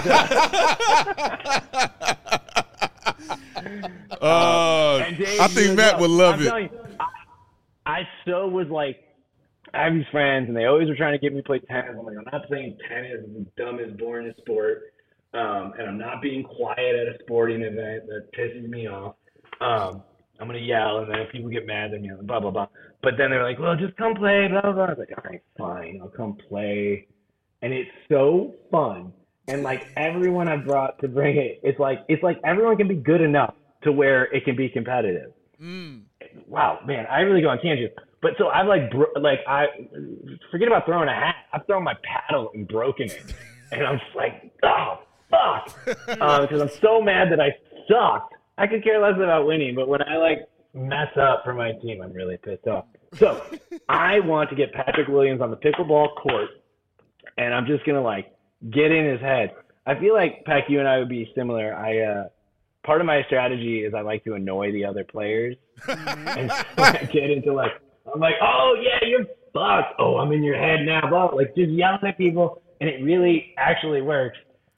and Dave, I think Matt would love it. You, I so was like, I have these friends, and they always were trying to get me to play tennis. I'm like, I'm not playing tennis. It's the dumbest, boring sport. And I'm not being quiet at a sporting event. That pisses me off. I'm going to yell, and then if people get mad, then blah, blah, blah. But then they're like, well, just come play, blah, blah, blah. I was like, all right, fine. I'll come play. And it's so fun. And, like, everyone I brought to bring it, it's like everyone can be good enough to where it can be competitive. Wow, man, I really go on tangents. But so I've I forget about throwing a hat. I've thrown my paddle and broken it. And I'm just like, oh, fuck. Because I'm so mad that I sucked. I could care less about winning, but when I like mess up for my team, I'm really pissed off. So I want to get Patrick Williams on the pickleball court, and I'm just going to like get in his head. I feel like, Peck, you and I would be similar. Part of my strategy is I like to annoy the other players. And so I get into like, I'm like, oh yeah, you're fucked. Oh, I'm in your head now. Blah. Like just yelling at people, and it really actually works.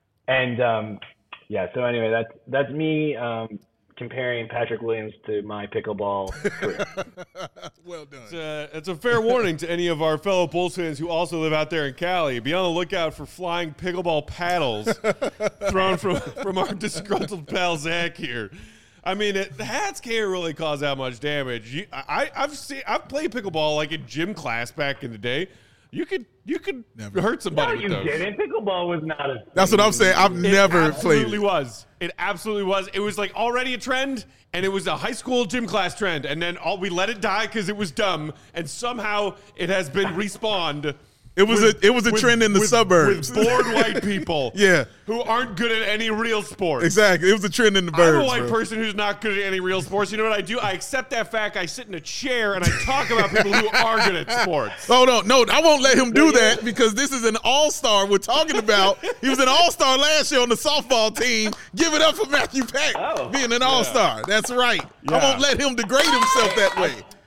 And yeah, so anyway, that's me comparing Patrick Williams to my pickleball career. Well done. It's a fair warning to any of our fellow Bulls fans who also live out there in Cali. Be on the lookout for flying pickleball paddles thrown from our disgruntled pal Zach here. I mean, the hats can't really cause that much damage. I've played pickleball like in gym class back in the day. You could never hurt somebody with those. No, you didn't. Pickleball was not a. That's what I'm saying. I've never played. It absolutely was. It was like already a trend, and it was a high school gym class trend, and then we let it die because it was dumb, and somehow it has been respawned. It was a trend in the suburbs with bored white people, yeah, who aren't good at any real sports. Exactly, it was a trend in the burbs. I'm a white person who's not good at any real sports. You know what I do? I accept that fact. I sit in a chair and I talk about people who are good at sports. Oh no, I won't let him do that because this is an all-star we're talking about. He was an all-star last year on the softball team. Give it up for Matthew Peck being an all-star. That's right. Yeah. I won't let him degrade himself that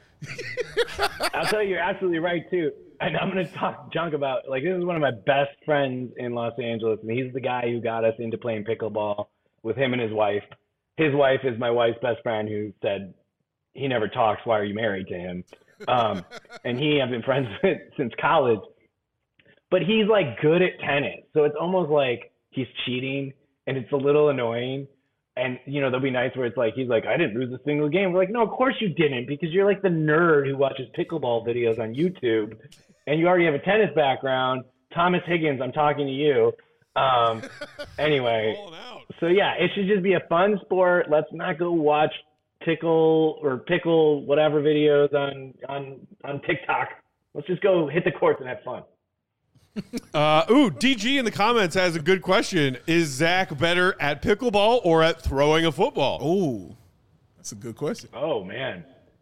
way. I'll tell you, you're absolutely right too. And I'm going to talk junk about, like, this is one of my best friends in Los Angeles, and he's the guy who got us into playing pickleball with him and his wife. His wife is my wife's best friend who said, he never talks, why are you married to him? And he have been friends with since college. But he's, like, good at tennis. So it's almost like he's cheating, and it's a little annoying. And, you know, there'll be nights where it's like, he's like, I didn't lose a single game. We're like, no, of course you didn't, because you're like the nerd who watches pickleball videos on YouTube, and you already have a tennis background. Thomas Higgins, I'm talking to you. Anyway, so yeah, it should just be a fun sport. Let's not go watch pickle whatever videos on TikTok. Let's just go hit the courts and have fun. DG in the comments has a good question. Is Zach better at pickleball or at throwing a football? Oh, that's a good question. Oh, man.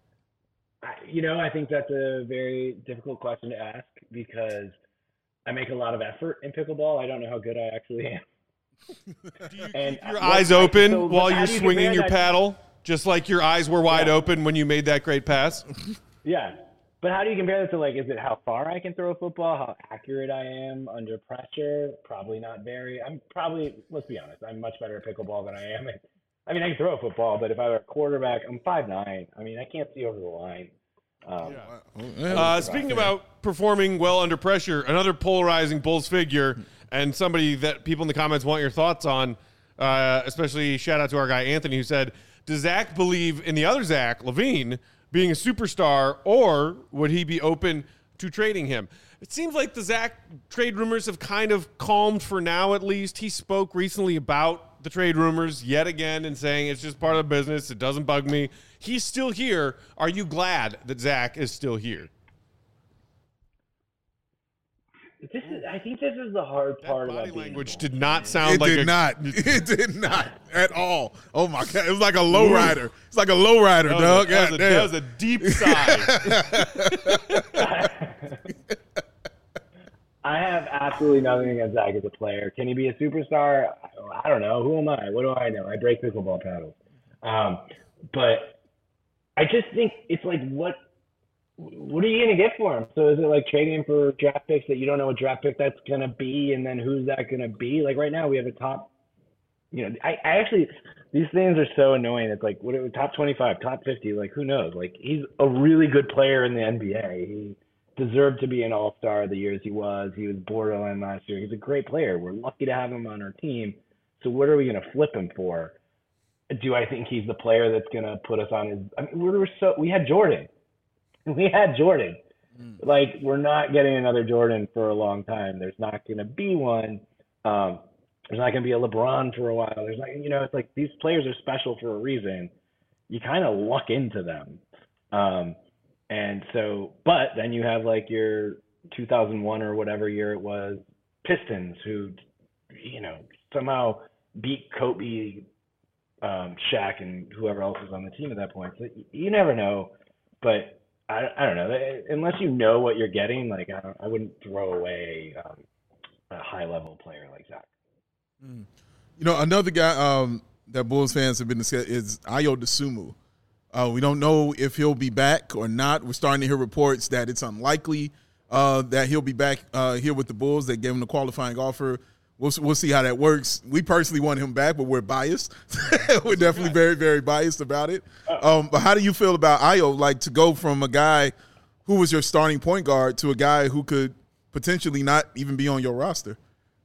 I think that's a very difficult question to ask because I make a lot of effort in pickleball. I don't know how good I actually am. Do you keep your eyes open while you're swinging your paddle, just like your eyes were wide open when you made that great pass? Yeah. But how do you compare that to, like, is it how far I can throw a football, how accurate I am under pressure? Probably not very. Let's be honest, I'm much better at pickleball than I am I mean, I can throw a football, but if I were a quarterback, I'm 5'9". I mean, I can't see over the line. Speaking about performing well under pressure, another polarizing Bulls figure and somebody that people in the comments want your thoughts on, especially shout out to our guy Anthony, who said, does Zach believe in the other Zach LaVine being a superstar, or would he be open to trading him? It seems like the Zach trade rumors have kind of calmed for now, at least. He spoke recently about the trade rumors yet again and saying it's just part of the business. It doesn't bug me. He's still here. Are you glad that Zach is still here? I think this is the hard part Body about language did not sound like It did not at all. Oh my God. It was like a lowrider. It's like a lowrider, dog. That was a deep sigh. I have absolutely nothing against Zach as a player. Can he be a superstar? I don't know. Who am I? What do I know? I break pickleball paddles. But I just think it's like, what are you going to get for him? So is it like trading him for draft picks that you don't know what draft pick that's going to be, and then who's that going to be? Like right now we have a top, I actually, these things are so annoying. It's like, what top 25, top 50, like who knows? Like he's a really good player in the NBA. He deserved to be an all-star the years he was. He was borderline last year. He's a great player. We're lucky to have him on our team. So what are we going to flip him for? Do I think he's the player that's going to put us on his, I mean, we had Jordan. Like, we're not getting another Jordan for a long time. There's not going to be one. There's not going to be a LeBron for a while. There's not, it's like these players are special for a reason. You kind of luck into them. And so, but then you have like your 2001 or whatever year it was, Pistons, who, somehow beat Kobe, Shaq, and whoever else was on the team at that point. So you never know. But I don't know. Unless you know what you're getting, like I wouldn't throw away a high-level player like Zach. Another guy that Bulls fans have been discussing is Ayo Dosunmu. We don't know if he'll be back or not. We're starting to hear reports that it's unlikely that he'll be back here with the Bulls. They gave him the qualifying offer. We'll see how that works. We personally want him back, but we're biased. We're definitely very, very biased about it. But how do you feel about Ayo, like to go from a guy who was your starting point guard to a guy who could potentially not even be on your roster?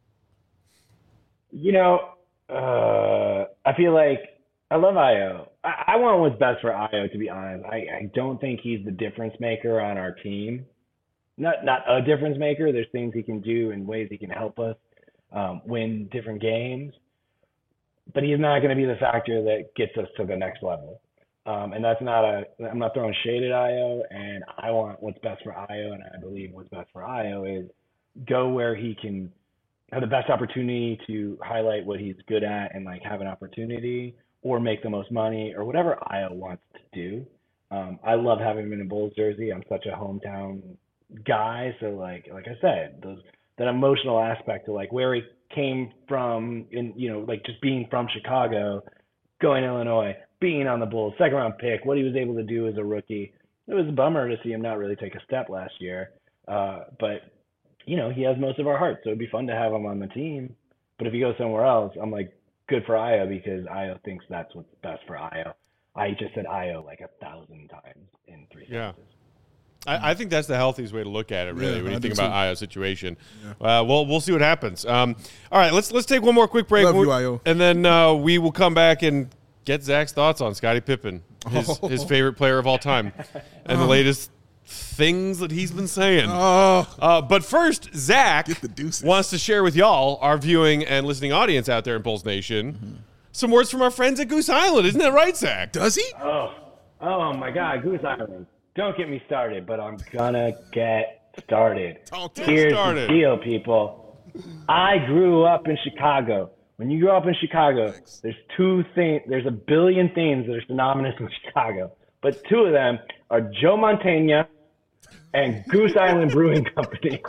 I feel like I love Ayo. I want what's best for Ayo, to be honest. I don't think he's the difference maker on our team. Not a difference maker. There's things he can do and ways he can help us win different games. But he's not going to be the factor that gets us to the next level. And that's I'm not throwing shade at Ayo, and I want what's best for Ayo, and I believe what's best for Ayo is go where he can have the best opportunity to highlight what he's good at and like have an opportunity or make the most money or whatever Ayo wants to do. I love having him in a Bulls jersey. I'm such a hometown guy. So like I said, that emotional aspect of like where he came from in, like just being from Chicago, going to Illinois, being on the Bulls, second round pick, what he was able to do as a rookie. It was a bummer to see him not really take a step last year. But he has most of our hearts, so it'd be fun to have him on the team. But if he goes somewhere else, I'm like, good for Ayo, because Ayo thinks that's what's best for Ayo. I just said Ayo like 1,000 times in 3 sentences. I think that's the healthiest way to look at it, really, when you think about Ayo's situation. Yeah. We'll see what happens. All right, let's take one more quick break. Love you, Ayo. And then we will come back and get Zach's thoughts on Scottie Pippen, his favorite player of all time, and the latest things that he's been saying. But first, Zach wants to share with y'all, our viewing and listening audience out there in Bulls Nation, some words from our friends at Goose Island. Isn't that right, Zach? Does he? Oh my God, Goose Island. Don't get me started, but I'm gonna get started. Here's the deal, people. I grew up in Chicago. When you grow up in Chicago, there's two things. There's a billion things that are synonymous with Chicago, but two of them are Joe Mantegna and Goose Island Brewing Company.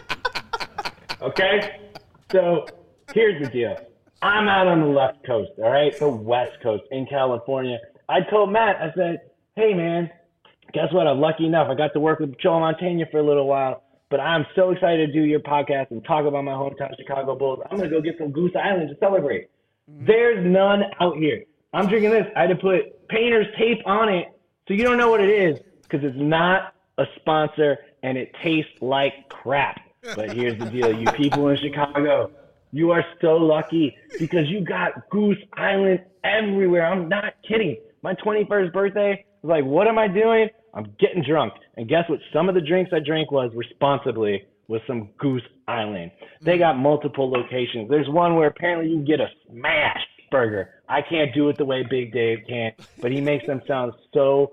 Okay? So here's the deal. I'm out on the left coast, all right? The West Coast in California. I told Matt, I said, hey, man, guess what? I'm lucky enough. I got to work with Joe Mantegna for a little while, but I'm so excited to do your podcast and talk about my hometown Chicago Bulls. I'm going to go get some Goose Island to celebrate. There's none out here. I'm drinking this. I had to put painter's tape on it so you don't know what it is because it's not a sponsor and it tastes like crap. But here's the deal. You people in Chicago, you are so lucky because you got Goose Island everywhere. I'm not kidding. My 21st birthday was like, what am I doing? I'm getting drunk. And guess what? Some of the drinks I drank was responsibly with some Goose Island. They got multiple locations. There's one where apparently you can get a smash burger. I can't do it the way Big Dave can, but he makes them sound so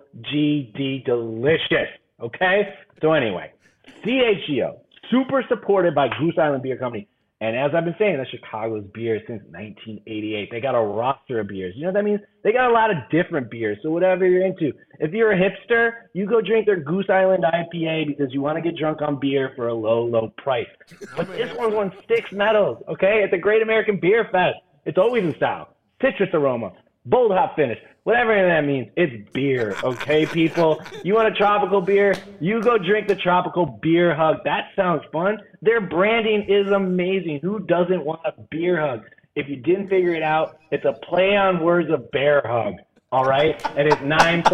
GD delicious. Okay? So anyway, CHGO, super supported by Goose Island Beer Company. And as I've been saying, that's Chicago's beer since 1988. They got a roster of beers. You know what that means? They got a lot of different beers. So whatever you're into. If you're a hipster, you go drink their Goose Island IPA because you want to get drunk on beer for a low, low price. But this one's won 6 medals, okay? It's a Great American Beer Fest. It's always in style. Citrus aroma, bold hop finish, whatever that means. It's beer, okay, people? You want a tropical beer? You go drink the Tropical Beer Hug. That sounds fun. Their branding is amazing. Who doesn't want a beer hug? If you didn't figure it out, it's a play on words of bear hug, all right? And it's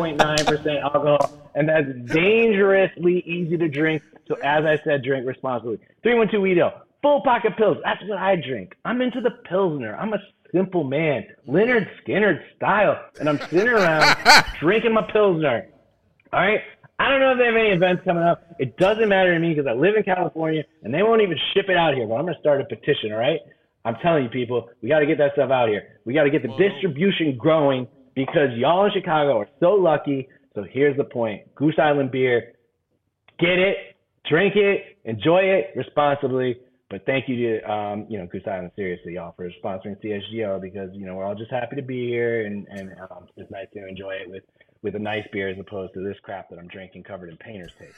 9.9% alcohol, and that's dangerously easy to drink. So as I said, drink responsibly. 312 Weedale, full pocket pills. That's what I drink. I'm into the Pilsner. I'm a simple man, Leonard Skinner style, and I'm sitting around drinking my Pilsner. All right? I don't know if they have any events coming up. It doesn't matter to me because I live in California, and they won't even ship it out here, but I'm going to start a petition, all right? I'm telling you, people, we got to get that stuff out here. We got to get the distribution growing because y'all in Chicago are so lucky. So here's the point. Goose Island beer, get it, drink it, enjoy it responsibly. But thank you to, Goose Island, seriously, y'all, for sponsoring CSGO because, we're all just happy to be here and it's nice to enjoy it with a nice beer as opposed to this crap that I'm drinking covered in painter's tape.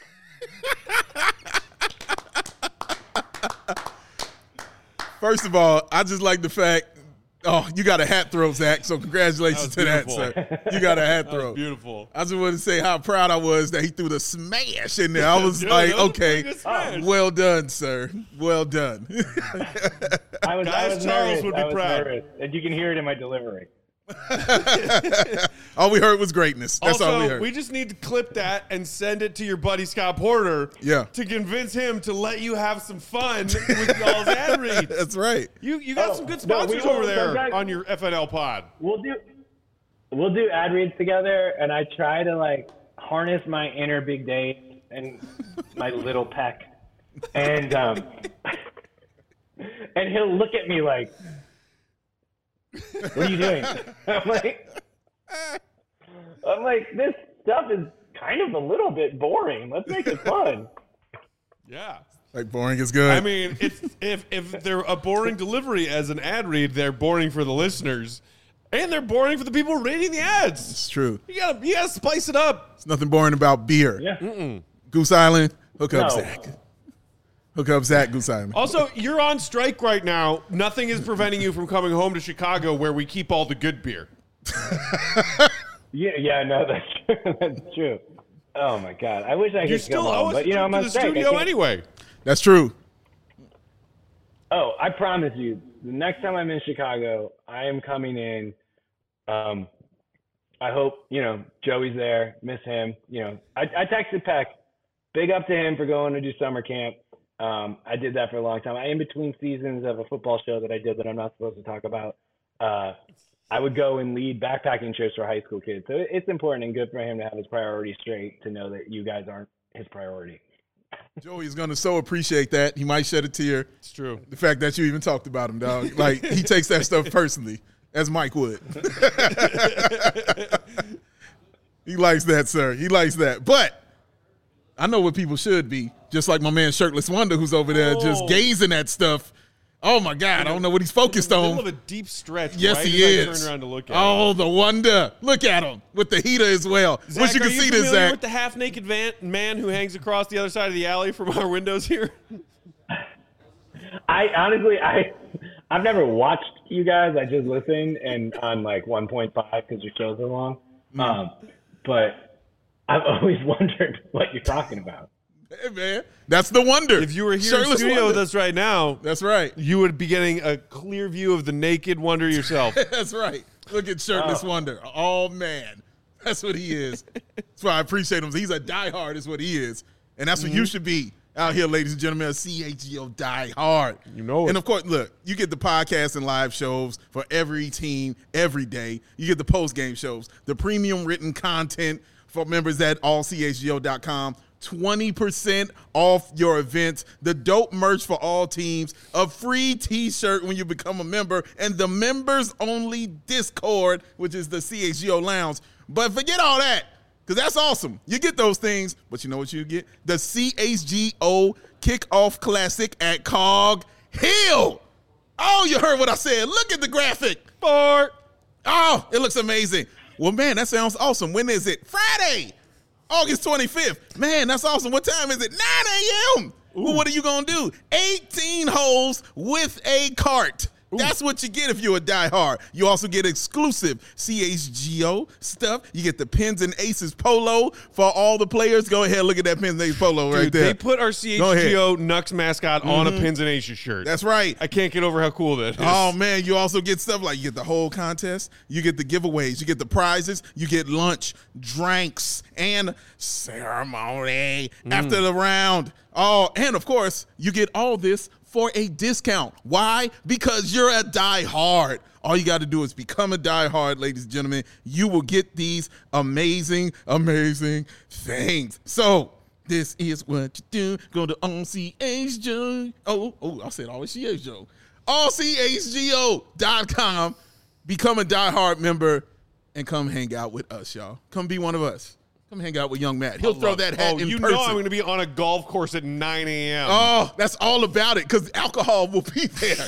First of all, I just like the fact, you got a hat throw, Zach, so congratulations to that, sir. You got a hat throw. Beautiful. I just wanted to say how proud I was that he threw the smash in there. I was like, okay, well done, sir. Well done. I was Charles nervous. would be proud. Nervous. And you can hear it in my delivery. All we heard was greatness. That's also, all we heard. We just need to clip that and send it to your buddy Scott Porter to convince him to let you have some fun with y'all's ad reads. That's right. You got some good sponsors over there on your FNL pod. We'll do ad reads together, and I try to harness my inner Big Dave and my little Peck, and he'll look at me like, what are you doing? I'm like, this stuff is kind of a little bit boring. Let's make it fun. Yeah. Like boring is good. I mean, if they're a boring delivery as an ad read, they're boring for the listeners, and they're boring for the people reading the ads. It's true. You gotta spice it up. There's nothing boring about beer. Yeah. Goose Island, hook up Zach. Hook up Zach, Goose Island. Also, you're on strike right now. Nothing is preventing you from coming home to Chicago where we keep all the good beer. Yeah, no, that's true. That's true. Oh my God, I wish I could You come home, but I'm on the strike. studio anyway. That's true. Oh, I promise you, the next time I'm in Chicago, I am coming in. I hope Joey's there. Miss him. I texted Peck. Big up to him for going to do summer camp. I did that for a long time. I in between seasons of a football show that I did that I'm not supposed to talk about. I would go and lead backpacking trips for high school kids. So it's important and good for him to have his priorities straight, to know that you guys aren't his priority. Joey's going to so appreciate that. He might shed a tear. It's true. The fact that you even talked about him, dog. Like, he takes that stuff personally, as Mike would. He likes that, sir. He likes that. But I know what people should be. Just like my man Shirtless Wonder, who's over there just gazing at stuff. Oh, my God. I don't know what he's focused on. In the middle of a deep stretch. Yes, right he as is. I turn around to look at oh, him. The wonder. Look at him with the heater as well. Zach, Wish you could see this, Zach. With the half-naked man who hangs across the other side of the alley from our windows here? I've never watched you guys. I just listen and on 1.5 because your shows are long. But I've always wondered what you're talking about. Hey, man. That's the wonder. If you were here Shirtless in the studio Wonder. with us right now, That's right. you would be getting a clear view of the naked wonder yourself. That's right. Look at Shirtless Wonder. Oh, man. That's what he is. That's why I appreciate him. He's a diehard is what he is. And that's what you should be out here, ladies and gentlemen. A CHGO diehard. You know it. And, of course, look, you get the podcast and live shows for every team every day. You get the post-game shows, the premium written content for members at allchgo.com. 20% off your events, the dope merch for all teams, a free t-shirt when you become a member, and the members-only Discord, which is the CHGO Lounge. But forget all that, because that's awesome. You get those things, but you know what you get? The CHGO Kickoff Classic at Cog Hill. Oh, you heard what I said. Look at the graphic. Oh, it looks amazing. Well, man, that sounds awesome. When is it? Friday, August 25th. Man, that's awesome. What time is it? 9 a.m. Well, what are you going to do? 18 holes with a cart. That's what you get if you're a diehard. You also get exclusive CHGO stuff. You get the Pins and Aces polo for all the players. Go ahead, look at that Pins and Aces polo right there. They put our CHGO Nux mascot on a Pins and Aces shirt. That's right. I can't get over how cool that is. Oh, man, you also get stuff like you get the whole contest, you get the giveaways, you get the prizes, you get lunch, drinks, and ceremony after the round. Oh, and, of course, you get all this for a discount. Why? Because you're a diehard. All you got to do is become a diehard, ladies and gentlemen. You will get these amazing, amazing things. So this is what you do. Go to allchgo. I said allchgo. allchgo.com. Become a diehard member and come hang out with us, y'all. Come be one of us. Come hang out with young Matt. He'll throw that hat in person. You know I'm going to be on a golf course at 9 a.m. Oh, that's all about it, because alcohol will be there.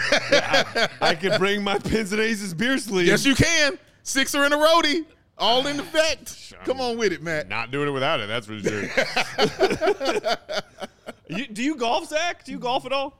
I can bring my Pins and Aces beer sleeve. Yes, you can. Sixer and a roadie. All in effect. Come on with it, Matt. Not doing it without it, that's for sure. Do you golf, Zach? Do you golf at all?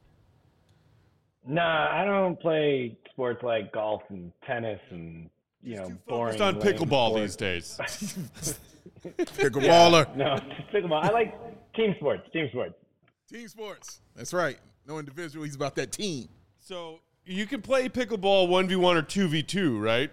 Nah, I don't play sports like golf and tennis and boring. Focused on pickleball these days. Pickleballer. No, pickleball. I like team sports. Team sports. That's right. No individual. He's about that team. So you can play pickleball 1v1 or 2v2, right?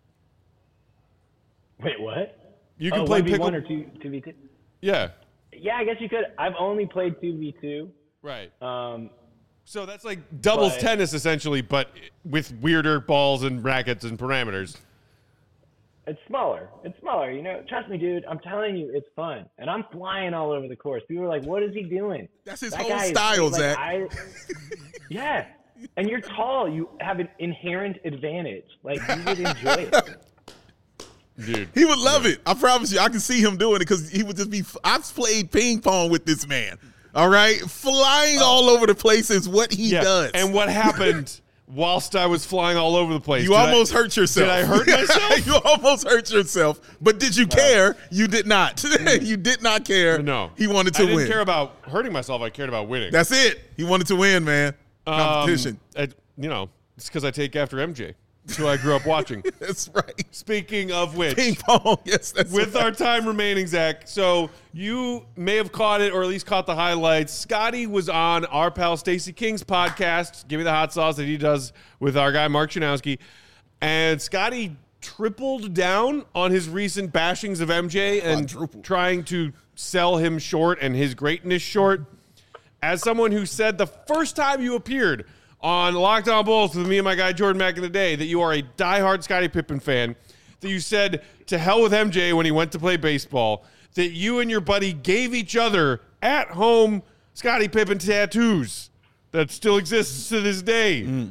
Wait, what? You can play 1v1 or 2v2? Yeah. Yeah, I guess you could. I've only played 2v2. Right. So that's like doubles tennis essentially, but with weirder balls and rackets and parameters. It's smaller. Trust me, dude. I'm telling you, it's fun. And I'm flying all over the course. People are like, what is he doing? That's his whole style, Zach. Yeah. And you're tall. You have an inherent advantage. Like, you would enjoy it. Dude. He would love it. I promise you. I can see him doing it because he would just be – I've played ping pong with this man. All right? Flying all over the place is what he does. And what happened – whilst I was flying all over the place. You almost hurt yourself. Did I hurt myself? You almost hurt yourself. But did you care? You did not. You did not care. No. He wanted to win. I didn't care about hurting myself. I cared about winning. That's it. He wanted to win, man. Competition. It's because I take after MJ. That's who I grew up watching. That's right. Speaking of which. Ping pong. Yes, that's with our time remaining, Zach. So you may have caught it or at least caught the highlights. Scotty was on our pal Stacey King's podcast, Give Me the Hot Sauce, that he does with our guy Mark Chanowski. And Scotty tripled down on his recent bashings of MJ and trying to sell him short and his greatness short. As someone who said the first time you appeared on Locked On Bulls with me and my guy Jordan back in the day that you are a diehard Scottie Pippen fan, that you said to hell with MJ when he went to play baseball, that you and your buddy gave each other at home Scottie Pippen tattoos that still exists to this day.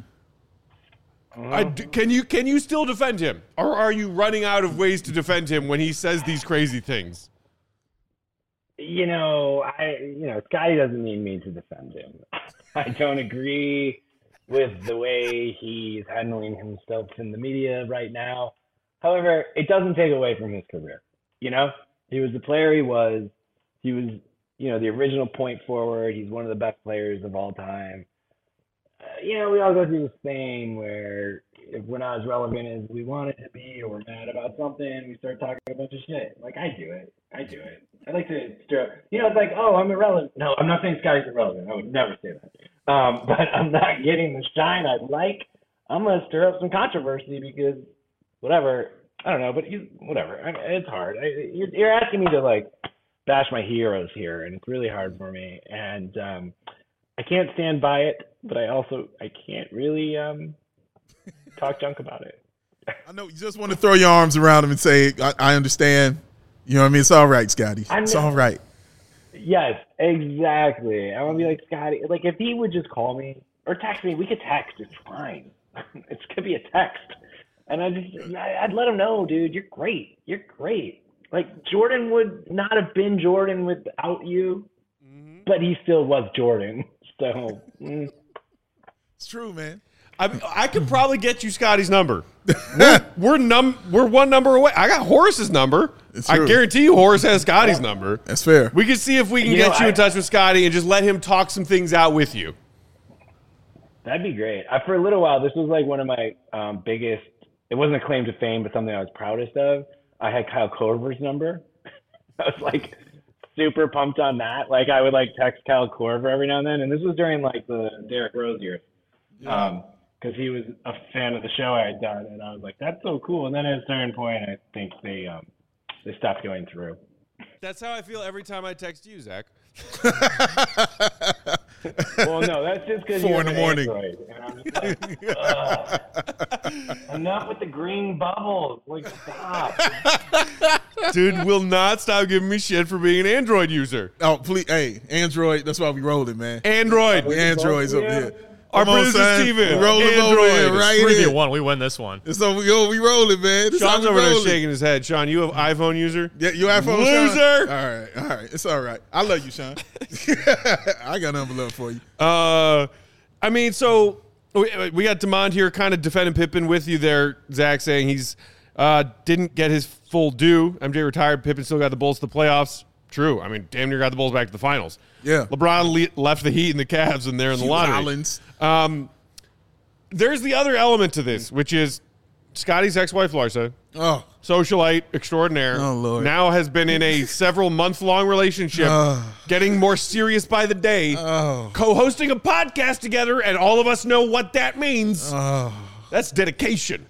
Can you still defend him, or are you running out of ways to defend him when he says these crazy things? Scotty doesn't need me to defend him. I don't agree with the way he's handling himself in the media right now. However, it doesn't take away from his career. He was the player he was. He was, the original point forward. He's one of the best players of all time. We all go through this thing where if we're not as relevant as we want it to be, or we're mad about something, we start talking a bunch of shit. Like, I do it. I like to stir up. It's like, oh, I'm irrelevant. No, I'm not saying Scotty's irrelevant. I would never say that. But I'm not getting the shine I'd like. I'm gonna stir up some controversy because whatever. I don't know, but whatever. It's hard. You're asking me to like bash my heroes here, and it's really hard for me. And I can't stand by it, but I can't really talk junk about it. I know you just want to throw your arms around him and say, I understand. You know what I mean? It's all right, Scotty. It's all right. Yes, exactly. I want to be like, Scotty, like if he would just call me or text me, we could text. It's fine. It's going to be a text. And I'd let him know, dude, you're great. You're great. Like Jordan would not have been Jordan without you, but he still was Jordan. So it's true, man. I could probably get you Scotty's number. We're one number away. I got Horace's number. I guarantee you Horace has Scotty's number. That's fair. We can see if we can get you in touch with Scotty and just let him talk some things out with you. That'd be great. For a little while, this was like one of my biggest, it wasn't a claim to fame, but something I was proudest of. I had Kyle Korver's number. I was like super pumped on that. Like I would like text Kyle Korver every now and then. And this was during like the Derrick Rose years. Because he was a fan of the show I had done, and I was like, "That's so cool." And then at a certain point, I think they stopped going through. That's how I feel every time I text you, Zach. Well, no, that's just because 4 in the morning. Android, and I'm just like, enough with the green bubbles. Like, stop. Dude will not stop giving me shit for being an Android user. Oh, please, hey, Android. That's why we rolling, man. Android. We Androids up here. Our producer Steven. Rolling over here, right here. 3v1, we win this one. So we rolling, man. Sean's over there shaking his head. Sean, you have iPhone user? Yeah, you iPhone loser. Sean? All right. It's all right. I love you, Sean. I got nothing but love for you. I mean, so we got Demond here kind of defending Pippen with you there, Zach, saying he's didn't get his full due. MJ retired. Pippen still got the Bulls to the playoffs. True. I mean, damn near got the Bulls back to the finals. Yeah. LeBron left the Heat and the Cavs in there in the lottery. Islands. There's the other element to this, which is Scotty's ex-wife, Larsa, socialite extraordinaire, Lord. now has been in a several-month-long relationship, getting more serious by the day, co-hosting a podcast together, and all of us know what that means. That's dedication.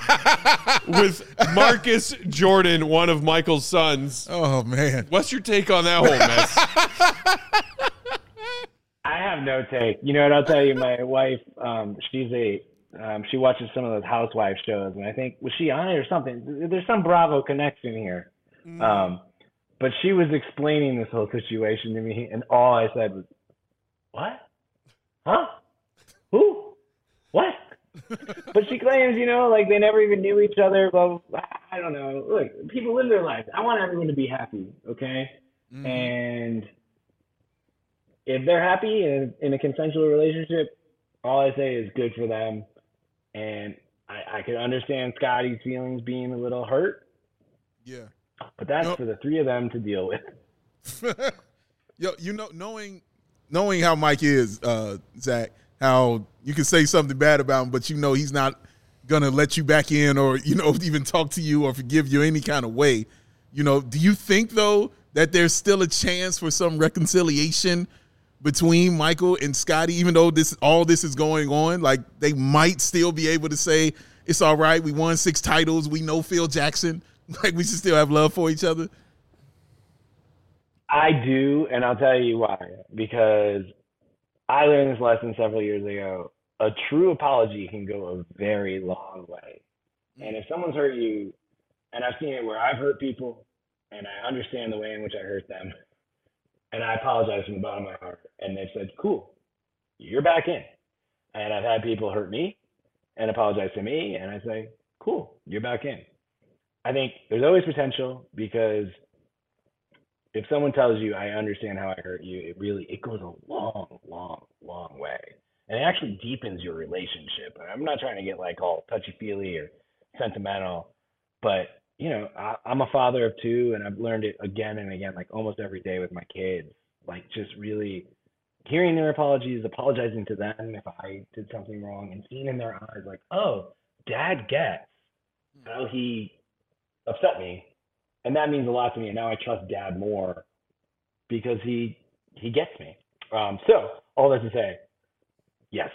With Marcus Jordan, one of Michael's sons. Oh, man. What's your take on that whole mess? I have no take. You know what? I'll tell you, my wife, she watches some of those housewife shows, and I think, was she on it or something? There's some Bravo connection here. But she was explaining this whole situation to me, and all I said was, what? Huh? Who? What? But she claims, like they never even knew each other. But I don't know. Look, people live their lives. I want everyone to be happy, okay? And if they're happy in a consensual relationship, all I say is good for them. And I could understand Scotty's feelings being a little hurt. Yeah. But that's for the three of them to deal with. Yo, knowing how Mike is, Zach, how you can say something bad about him, but he's not going to let you back in or, even talk to you or forgive you any kind of way. Do you think, though, that there's still a chance for some reconciliation between Michael and Scotty, even though all this is going on? Like, they might still be able to say, it's all right, we won 6 titles, we know Phil Jackson, like we should still have love for each other? I do, and I'll tell you why. Because I learned this lesson several years ago. A true apology can go a very long way. And if someone's hurt you, and I've seen it where I've hurt people, and I understand the way in which I hurt them, and I apologize from the bottom of my heart, and they've said, cool, you're back in. And I've had people hurt me and apologize to me, and I say, cool, you're back in. I think there's always potential, because if someone tells you, I understand how I hurt you, it goes a long, long, long way. And it actually deepens your relationship. I'm not trying to get like all touchy-feely or sentimental, but I'm a father of 2, and I've learned it again and again, like almost every day with my kids, like just really hearing their apologies, apologizing to them if I did something wrong, and seeing in their eyes like, oh, Dad gets how he upset me. And that means a lot to me. And now I trust Dad more because he gets me. So all that to say, yes,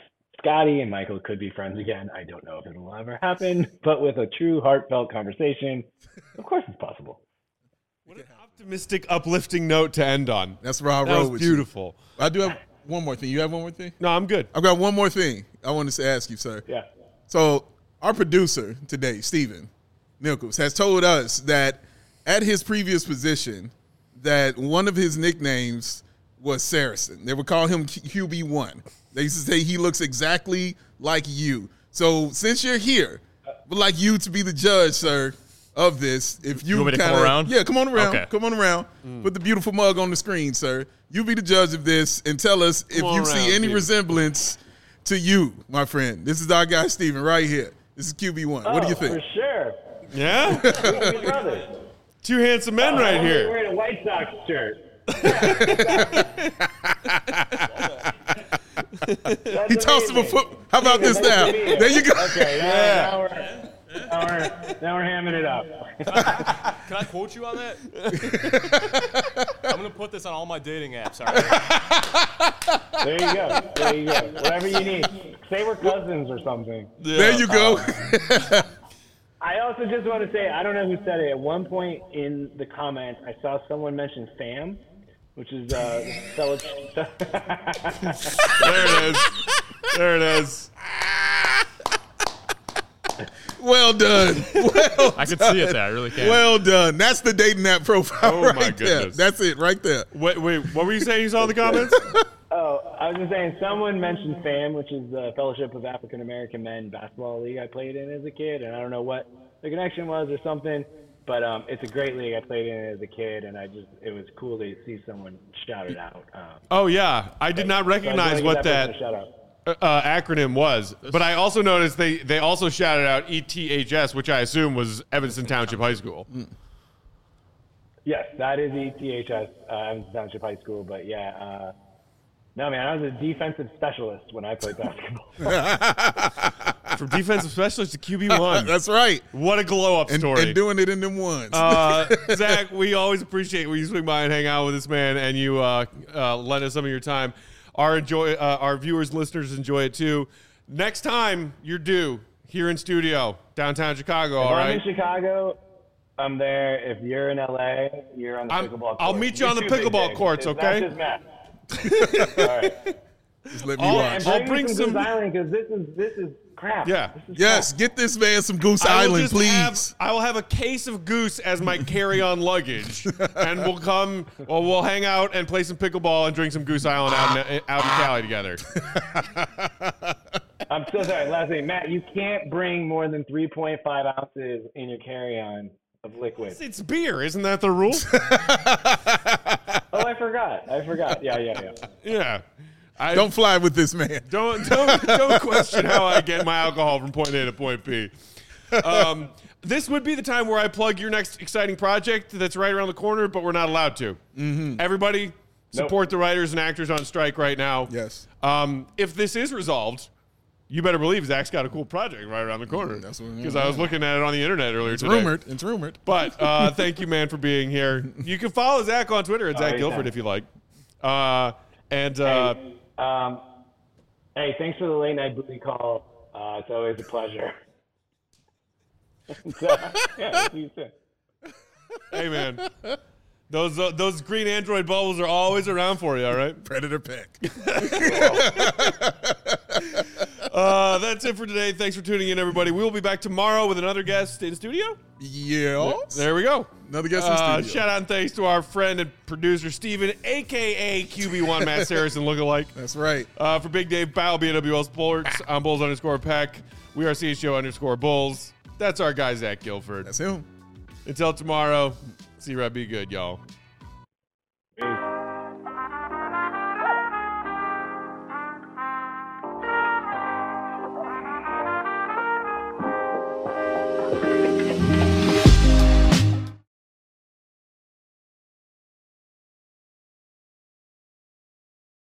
Scotty and Michael could be friends again. I don't know if it'll ever happen, but with a true heartfelt conversation, of course it's possible. What an optimistic, uplifting note to end on. That's where I That roll was with beautiful. you. I do have one more thing. You have one more thing? No, I'm good. I've got one more thing I wanted to ask you, sir. Yeah. So our producer today, Steven Nichols, has told us that at his previous position, that one of his nicknames was Saracen. They would call him QB1. They used to say he looks exactly like you. So since you're here, we'd like you to be the judge, sir, of this. If you want me to come around? Yeah, come on around. Okay. Come on around. Put the beautiful mug on the screen, sir. You be the judge of this and tell us if on you around, see any Steven. resemblance to you, my friend. This is our guy, Steven, right here. This is QB1. What do you think? For sure. Yeah? We're brothers. Two handsome men right I'm here. wearing a White Sox shirt. He tossed him a foot. How about this now? There you go. Okay, now we're hamming it up. Can I quote you on that? I'm gonna put this on all my dating apps. All right. There you go. There you go. Whatever you need. Say we're cousins or something. There you go. I also just want to say, I don't know who said it. At one point in the comments, I saw someone mention fam, which is fellow. There it is. There it is. Well done. Well I can see it there. I really can. Well done. That's the dating app profile Oh, right my there. goodness. That's it right there. Wait, what were you saying you saw in the comments? Oh, I was just saying, someone mentioned FAM, which is the Fellowship of African American Men basketball league I played in as a kid, and I don't know what the connection was or something, but it's a great league I played in as a kid, and it was cool to see someone shout it out. Oh, yeah. I did not recognize what that acronym was, but I also noticed they also shouted out ETHS, which I assume was Evanston Township High School. Yes, that is ETHS, Evanston Township High School, but yeah. No, man, I was a defensive specialist when I played basketball. From defensive specialist to QB1. That's right. What a glow-up story. And doing it in them ones. Zach, we always appreciate when you swing by and hang out with this man and you lend us some of your time. Our viewers and listeners enjoy it too. Next time you're due here in studio, downtown Chicago, all right? I'm in Chicago. I'm there. If you're in LA, you're on the pickleball court. I'll meet you on the pickleball courts, okay? That's just Matt. All right. Just let me I'll- watch. I'll bring Goose some- Island because this is crap. Yeah. This is Yes, crap. get this man some Goose I will Island, just please. I will have a case of goose as my carry-on luggage, and we'll hang out and play some pickleball and drink some Goose Island out in Cali together. I'm so sorry. Last thing, Matt, you can't bring more than 3.5 ounces in your carry-on of liquid. It's beer, isn't that the rule? Oh, I forgot. Yeah. Yeah. Don't fly with this man. Don't question how I get my alcohol from point A to point B. This would be the time where I plug your next exciting project that's right around the corner, but we're not allowed to. Mm-hmm. Everybody support the writers and actors on strike right now. Yes. If this is resolved, you better believe Zach's got a cool project right around the corner. That's what- Because I was looking at it on the internet earlier today. It's rumored. But thank you, man, for being here. You can follow Zach on Twitter at Zach Guilford if you like. Hey, thanks for the late night booty call. It's always a pleasure. Yeah, see you soon. Hey, man. Those green Android bubbles are always around for you, all right? Predator Peck. That's it for today. Thanks for tuning in, everybody. We will be back tomorrow with another guest in studio. Yes. There we go. Another guest in studio. Shout out and thanks to our friend and producer, Steven, a.k.a. QB1 Matt Saracen lookalike. That's right. For Big Dave Powell, BWL Sports, I'm Bulls_Peck. We are CHGO_Bulls. That's our guy, Zach Guilford. That's him. Until tomorrow, see you right. Be good, y'all.